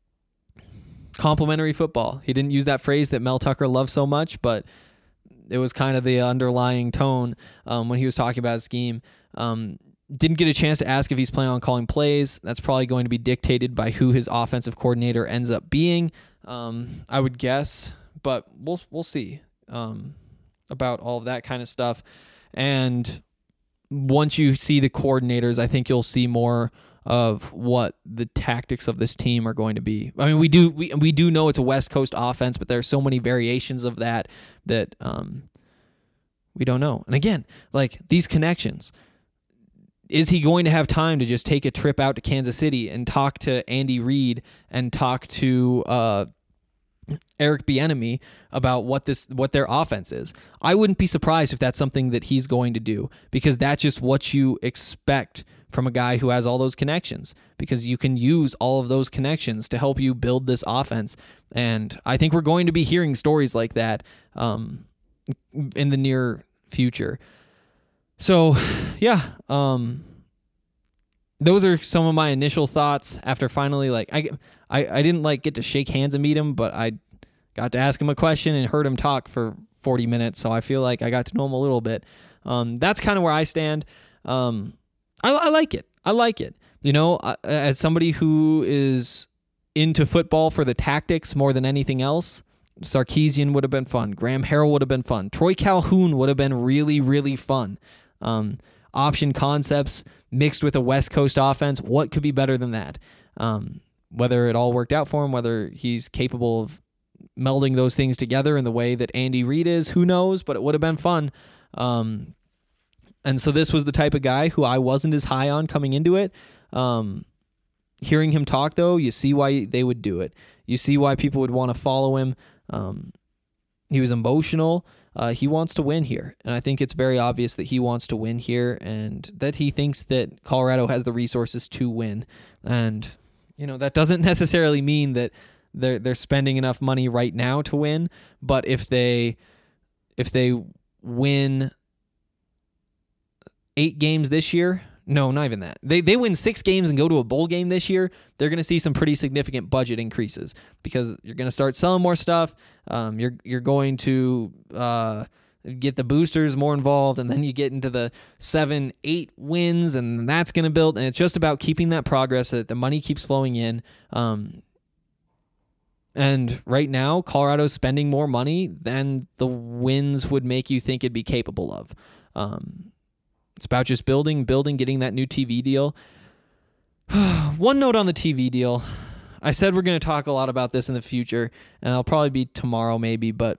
complimentary football. He didn't use that phrase that Mel Tucker loves so much, but it was kind of the underlying tone, um, when he was talking about his scheme. Um, Didn't get a chance to ask if he's planning on calling plays. That's probably going to be dictated by who his offensive coordinator ends up being, um, I would guess. But we'll we'll see um, about all of that kind of stuff. And once you see the coordinators, I think you'll see more of what the tactics of this team are going to be. I mean, we do we we do know it's a West Coast offense, but there are so many variations of that that um, we don't know. And again, like these connections. Is he going to have time to just take a trip out to Kansas City and talk to Andy Reid and talk to uh, Eric Bieniemy about what this what their offense is? I wouldn't be surprised if that's something that he's going to do, because that's just what you expect from a guy who has all those connections, because you can use all of those connections to help you build this offense. And I think we're going to be hearing stories like that um, in the near future. So, yeah, um, those are some of my initial thoughts after finally, like, I, I, I didn't, like, get to shake hands and meet him, but I got to ask him a question and heard him talk for forty minutes, so I feel like I got to know him a little bit. Um, that's kind of where I stand. Um, I, I like it. I like it. You know, I, as somebody who is into football for the tactics more than anything else, Sarkisian would have been fun. Graham Harrell would have been fun. Troy Calhoun would have been really, really fun. Um, option concepts mixed with a West Coast offense. What could be better than that? Um, whether it all worked out for him, whether he's capable of melding those things together in the way that Andy Reid is, who knows, but it would have been fun. Um, and so this was the type of guy who I wasn't as high on coming into it. Um, hearing him talk, though, you see why they would do it. You see why people would want to follow him. Um, he was emotional. Uh, he wants to win here, and I think it's very obvious that he wants to win here and that he thinks that Colorado has the resources to win. And, you know, that doesn't necessarily mean that they're they're spending enough money right now to win, but if they if they win eight games this year, no, not even that. They they win six games and go to a bowl game this year, they're going to see some pretty significant budget increases because you're going to start selling more stuff. Um, you're you're going to uh, get the boosters more involved, and then you get into the seven, eight wins, and that's going to build. And it's just about keeping that progress so that the money keeps flowing in. Um, and right now, Colorado's spending more money than the wins would make you think it'd be capable of. Um, It's about just building, building, getting that new T V deal. One note on the T V deal. I said we're going to talk a lot about this in the future, and I'll probably be tomorrow maybe, but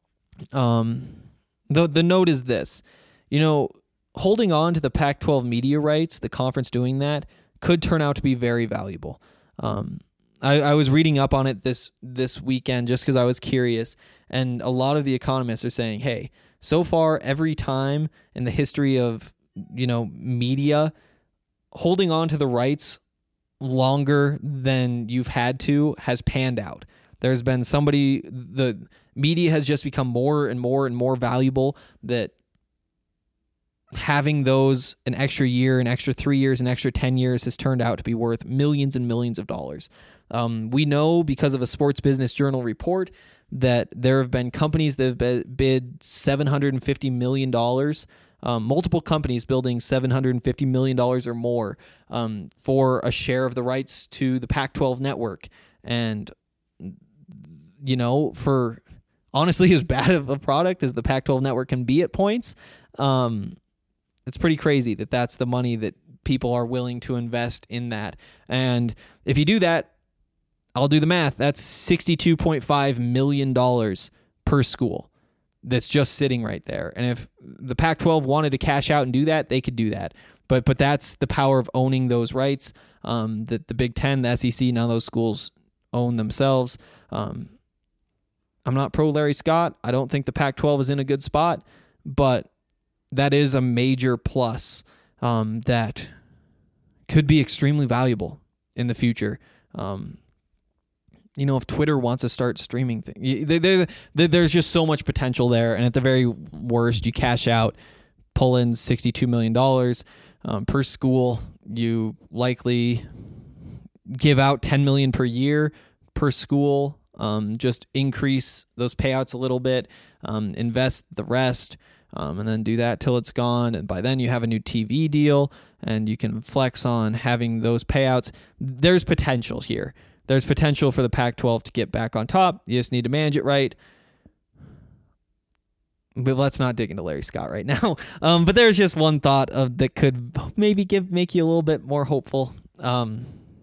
um, the, the note is this. You know, holding on to the Pac twelve media rights, the conference doing that, could turn out to be very valuable. Um, I, I was reading up on it this, this weekend just because I was curious, and a lot of the economists are saying, hey, so far every time in the history of you know, media, holding on to the rights longer than you've had to has panned out. There's been somebody, the media has just become more and more and more valuable, that having those an extra year, an extra three years, an extra ten years has turned out to be worth millions and millions of dollars. Um, we know because of a Sports Business Journal report that there have been companies that have bid seven hundred fifty million dollars. Um, multiple companies building seven hundred fifty million dollars or more um, for a share of the rights to the Pac twelve network. And, you know, for honestly as bad of a product as the Pac twelve network can be at points, um, it's pretty crazy that that's the money that people are willing to invest in that. And if you do that, I'll do the math. That's sixty-two point five million dollars per school. That's just sitting right there. And if the Pac twelve wanted to cash out and do that, they could do that. But but that's the power of owning those rights um, that the Big Ten, the S E C, none of those schools own themselves. Um, I'm not pro Larry Scott. I don't think the Pac twelve is in a good spot, but that is a major plus um, that could be extremely valuable in the future. Um, You know, if Twitter wants to start streaming things, they, they, they, there's just so much potential there. And at the very worst, you cash out, pull in sixty-two million dollars um, per school. You likely give out ten million dollars per year per school. Um, just increase those payouts a little bit, um, invest the rest, um, and then do that till it's gone. And by then you have a new T V deal, and you can flex on having those payouts. There's potential here. There's potential for the Pac twelve to get back on top. You just need to manage it right. But let's not dig into Larry Scott right now. Um, but there's just one thought of that could maybe give make you a little bit more hopeful. Um,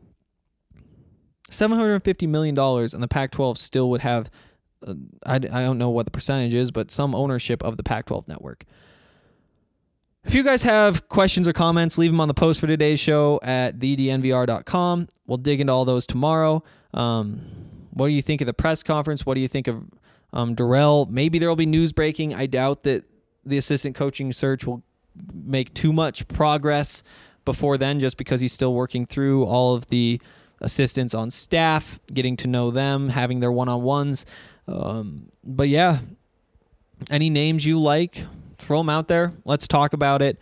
seven hundred fifty million dollars, and the Pac twelve still would have, uh, I, I don't know what the percentage is, but some ownership of the Pac twelve network. If you guys have questions or comments, leave them on the post for today's show at the d n v r dot com. We'll dig into all those tomorrow. Um, what do you think of the press conference? What do you think of um, Dorrell? Maybe there will be news breaking. I doubt that the assistant coaching search will make too much progress before then, just because he's still working through all of the assistants on staff, getting to know them, having their one-on-ones. Um, but yeah, any names you like Throw him out there. Let's talk about it.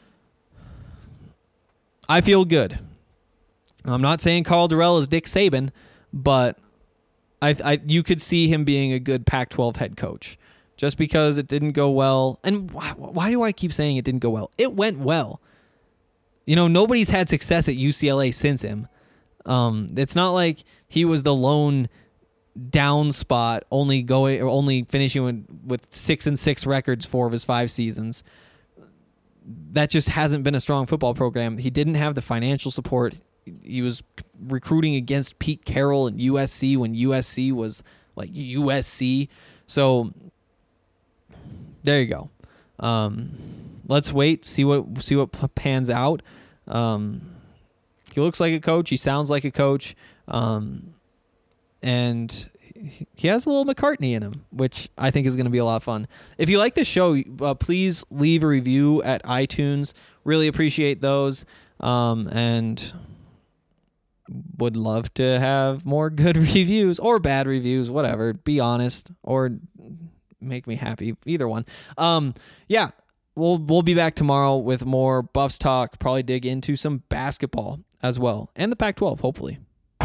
I feel good. I'm not saying Karl Dorrell is Dick Saban, but I, I you could see him being a good Pac twelve head coach. Just because it didn't go well. And why, why do I keep saying it didn't go well? It went well. You know, nobody's had success at U C L A since him. Um, it's not like he was the lone down spot, only going or only finishing with, with six and six records four of his five seasons. That just hasn't been a strong football program. He didn't have the financial support. He was recruiting against Pete Carroll and U S C when U S C was like U S C. So there you go. Um, let's wait, see what see what pans out. Um, he looks like a coach. He sounds like a coach. Um, and he has a little McCartney in him, which I think is going to be a lot of fun. If you like this show, uh, please leave a review at iTunes. Really appreciate those. Um, and would love to have more good reviews or bad reviews, whatever. Be honest or make me happy. Either one. Um, yeah, we'll we'll be back tomorrow with more Buffs talk. Probably dig into some basketball as well, and the Pac twelve, hopefully.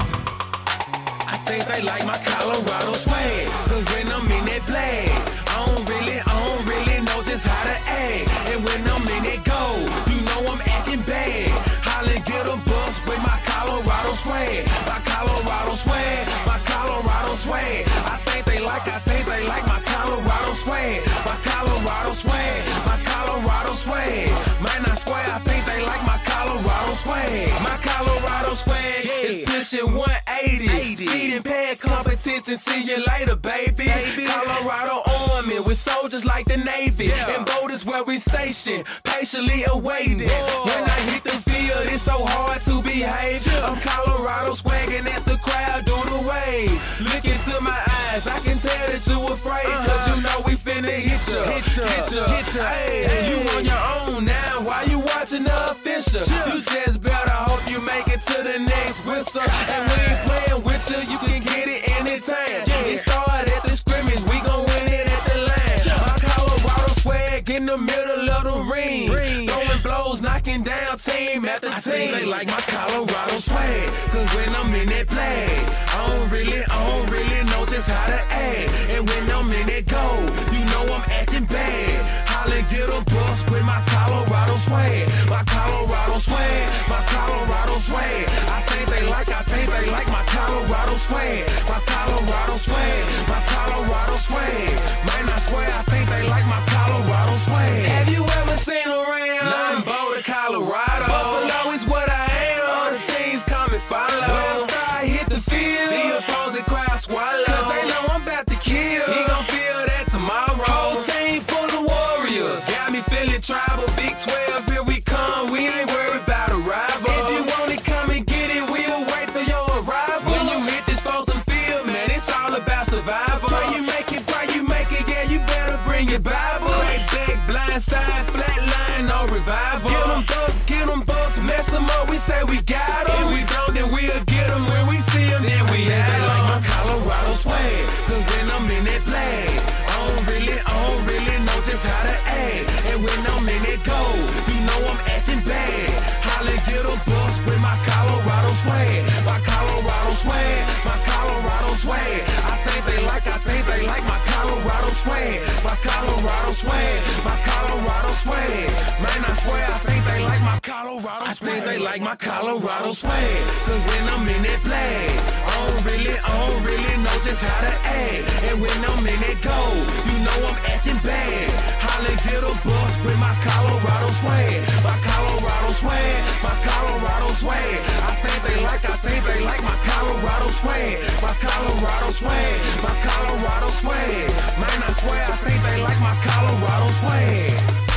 I think they like my Colorado swag, cause when I'm in that flag, I don't really, I don't really know just how to act. And when I'm in that goal, you know I'm acting bad. Holla, get a bus with my Colorado swag, my Colorado swag, my Colorado swag. I think they like, I think they like my Colorado swag, my Colorado swag, my Colorado swag. Man, I swear, I think they like my Colorado swag, my Colorado swag is pushing one eighty. Speeding past competition, see you later, baby. baby. Colorado Army with soldiers like the Navy, yeah. And voters where we stationed, patiently awaiting. Whoa. When I hit the field, it's so hard to behave. Yeah. I'm Colorado swagging as the crowd do the wave. Look into my eyes, I can tell that you afraid, uh-huh. Cause you know we finna hit ya, hit ya, hit ya, hit ya. Hey, hey. You on your own now, why you watching the official? Yeah. You just better hope you make it to the next whistle. And we ain't playing with you, you can get it anytime. Yeah. It started at the scrimmage, we gon' win it at the line. Yeah. My Colorado swag in the middle of the ring, ring. Throwing blows, knocking down team after I team. They like my Colorado swag, cause when I'm in that flag, I don't really, I don't really know just how to act. And when I'm in that goal, you know I'm acting bad. Holla, get a bus with my Colorado swag, my Colorado swag, my Colorado swag. I think they like, I think they like my Colorado swag, my Colorado swag, my Colorado swag. Man, I swear, I think they like my Colorado swag. Have you ever seen around? Nine Boulder, Colorado. Buffalo is what I am. All the teams come and follow. When I start hit the field, the opposing crowd swallow. Cause they know I'm about to kill. He gon' feel that tomorrow. Whole team full of warriors. Got me feeling tribal. Big twelve, here we come. We ain't worried about a rival. If you want it, come and get it. We'll wait for your arrival. When you hit this frozen field, man, it's all about survival. Pray you make it, pray you make it. Yeah, you better bring your Bible. Right back, blind side, flat line, no revival. Get them bucks, get them bucks, mess them up. We say we got them. If we don't, then we'll get them. When we see them, then we have them. Like my Colorado swag, cause when I'm in that flag, I don't really, I don't really know just how to act. And when I'm in that goal, you know I'm acting bad. Holla, get a bus with my Colorado swag, my Colorado swag, my Colorado swag. I think they like, I think they like my Colorado swag, my Colorado swag, my Colorado swag. Man, I swear, I think they like my Colorado swag. I think they like my Colorado swag, cause when I'm in that flag, I don't really, I don't really know just how to act. And when I'm in that goal, you know I'm acting bad. Holla, get a bus with my Colorado swag, my Colorado swag, my Colorado swag. I think they like, I think they like my Colorado swag, my Colorado swag, my Colorado swag. Man, I swear, I think they like my Colorado swag.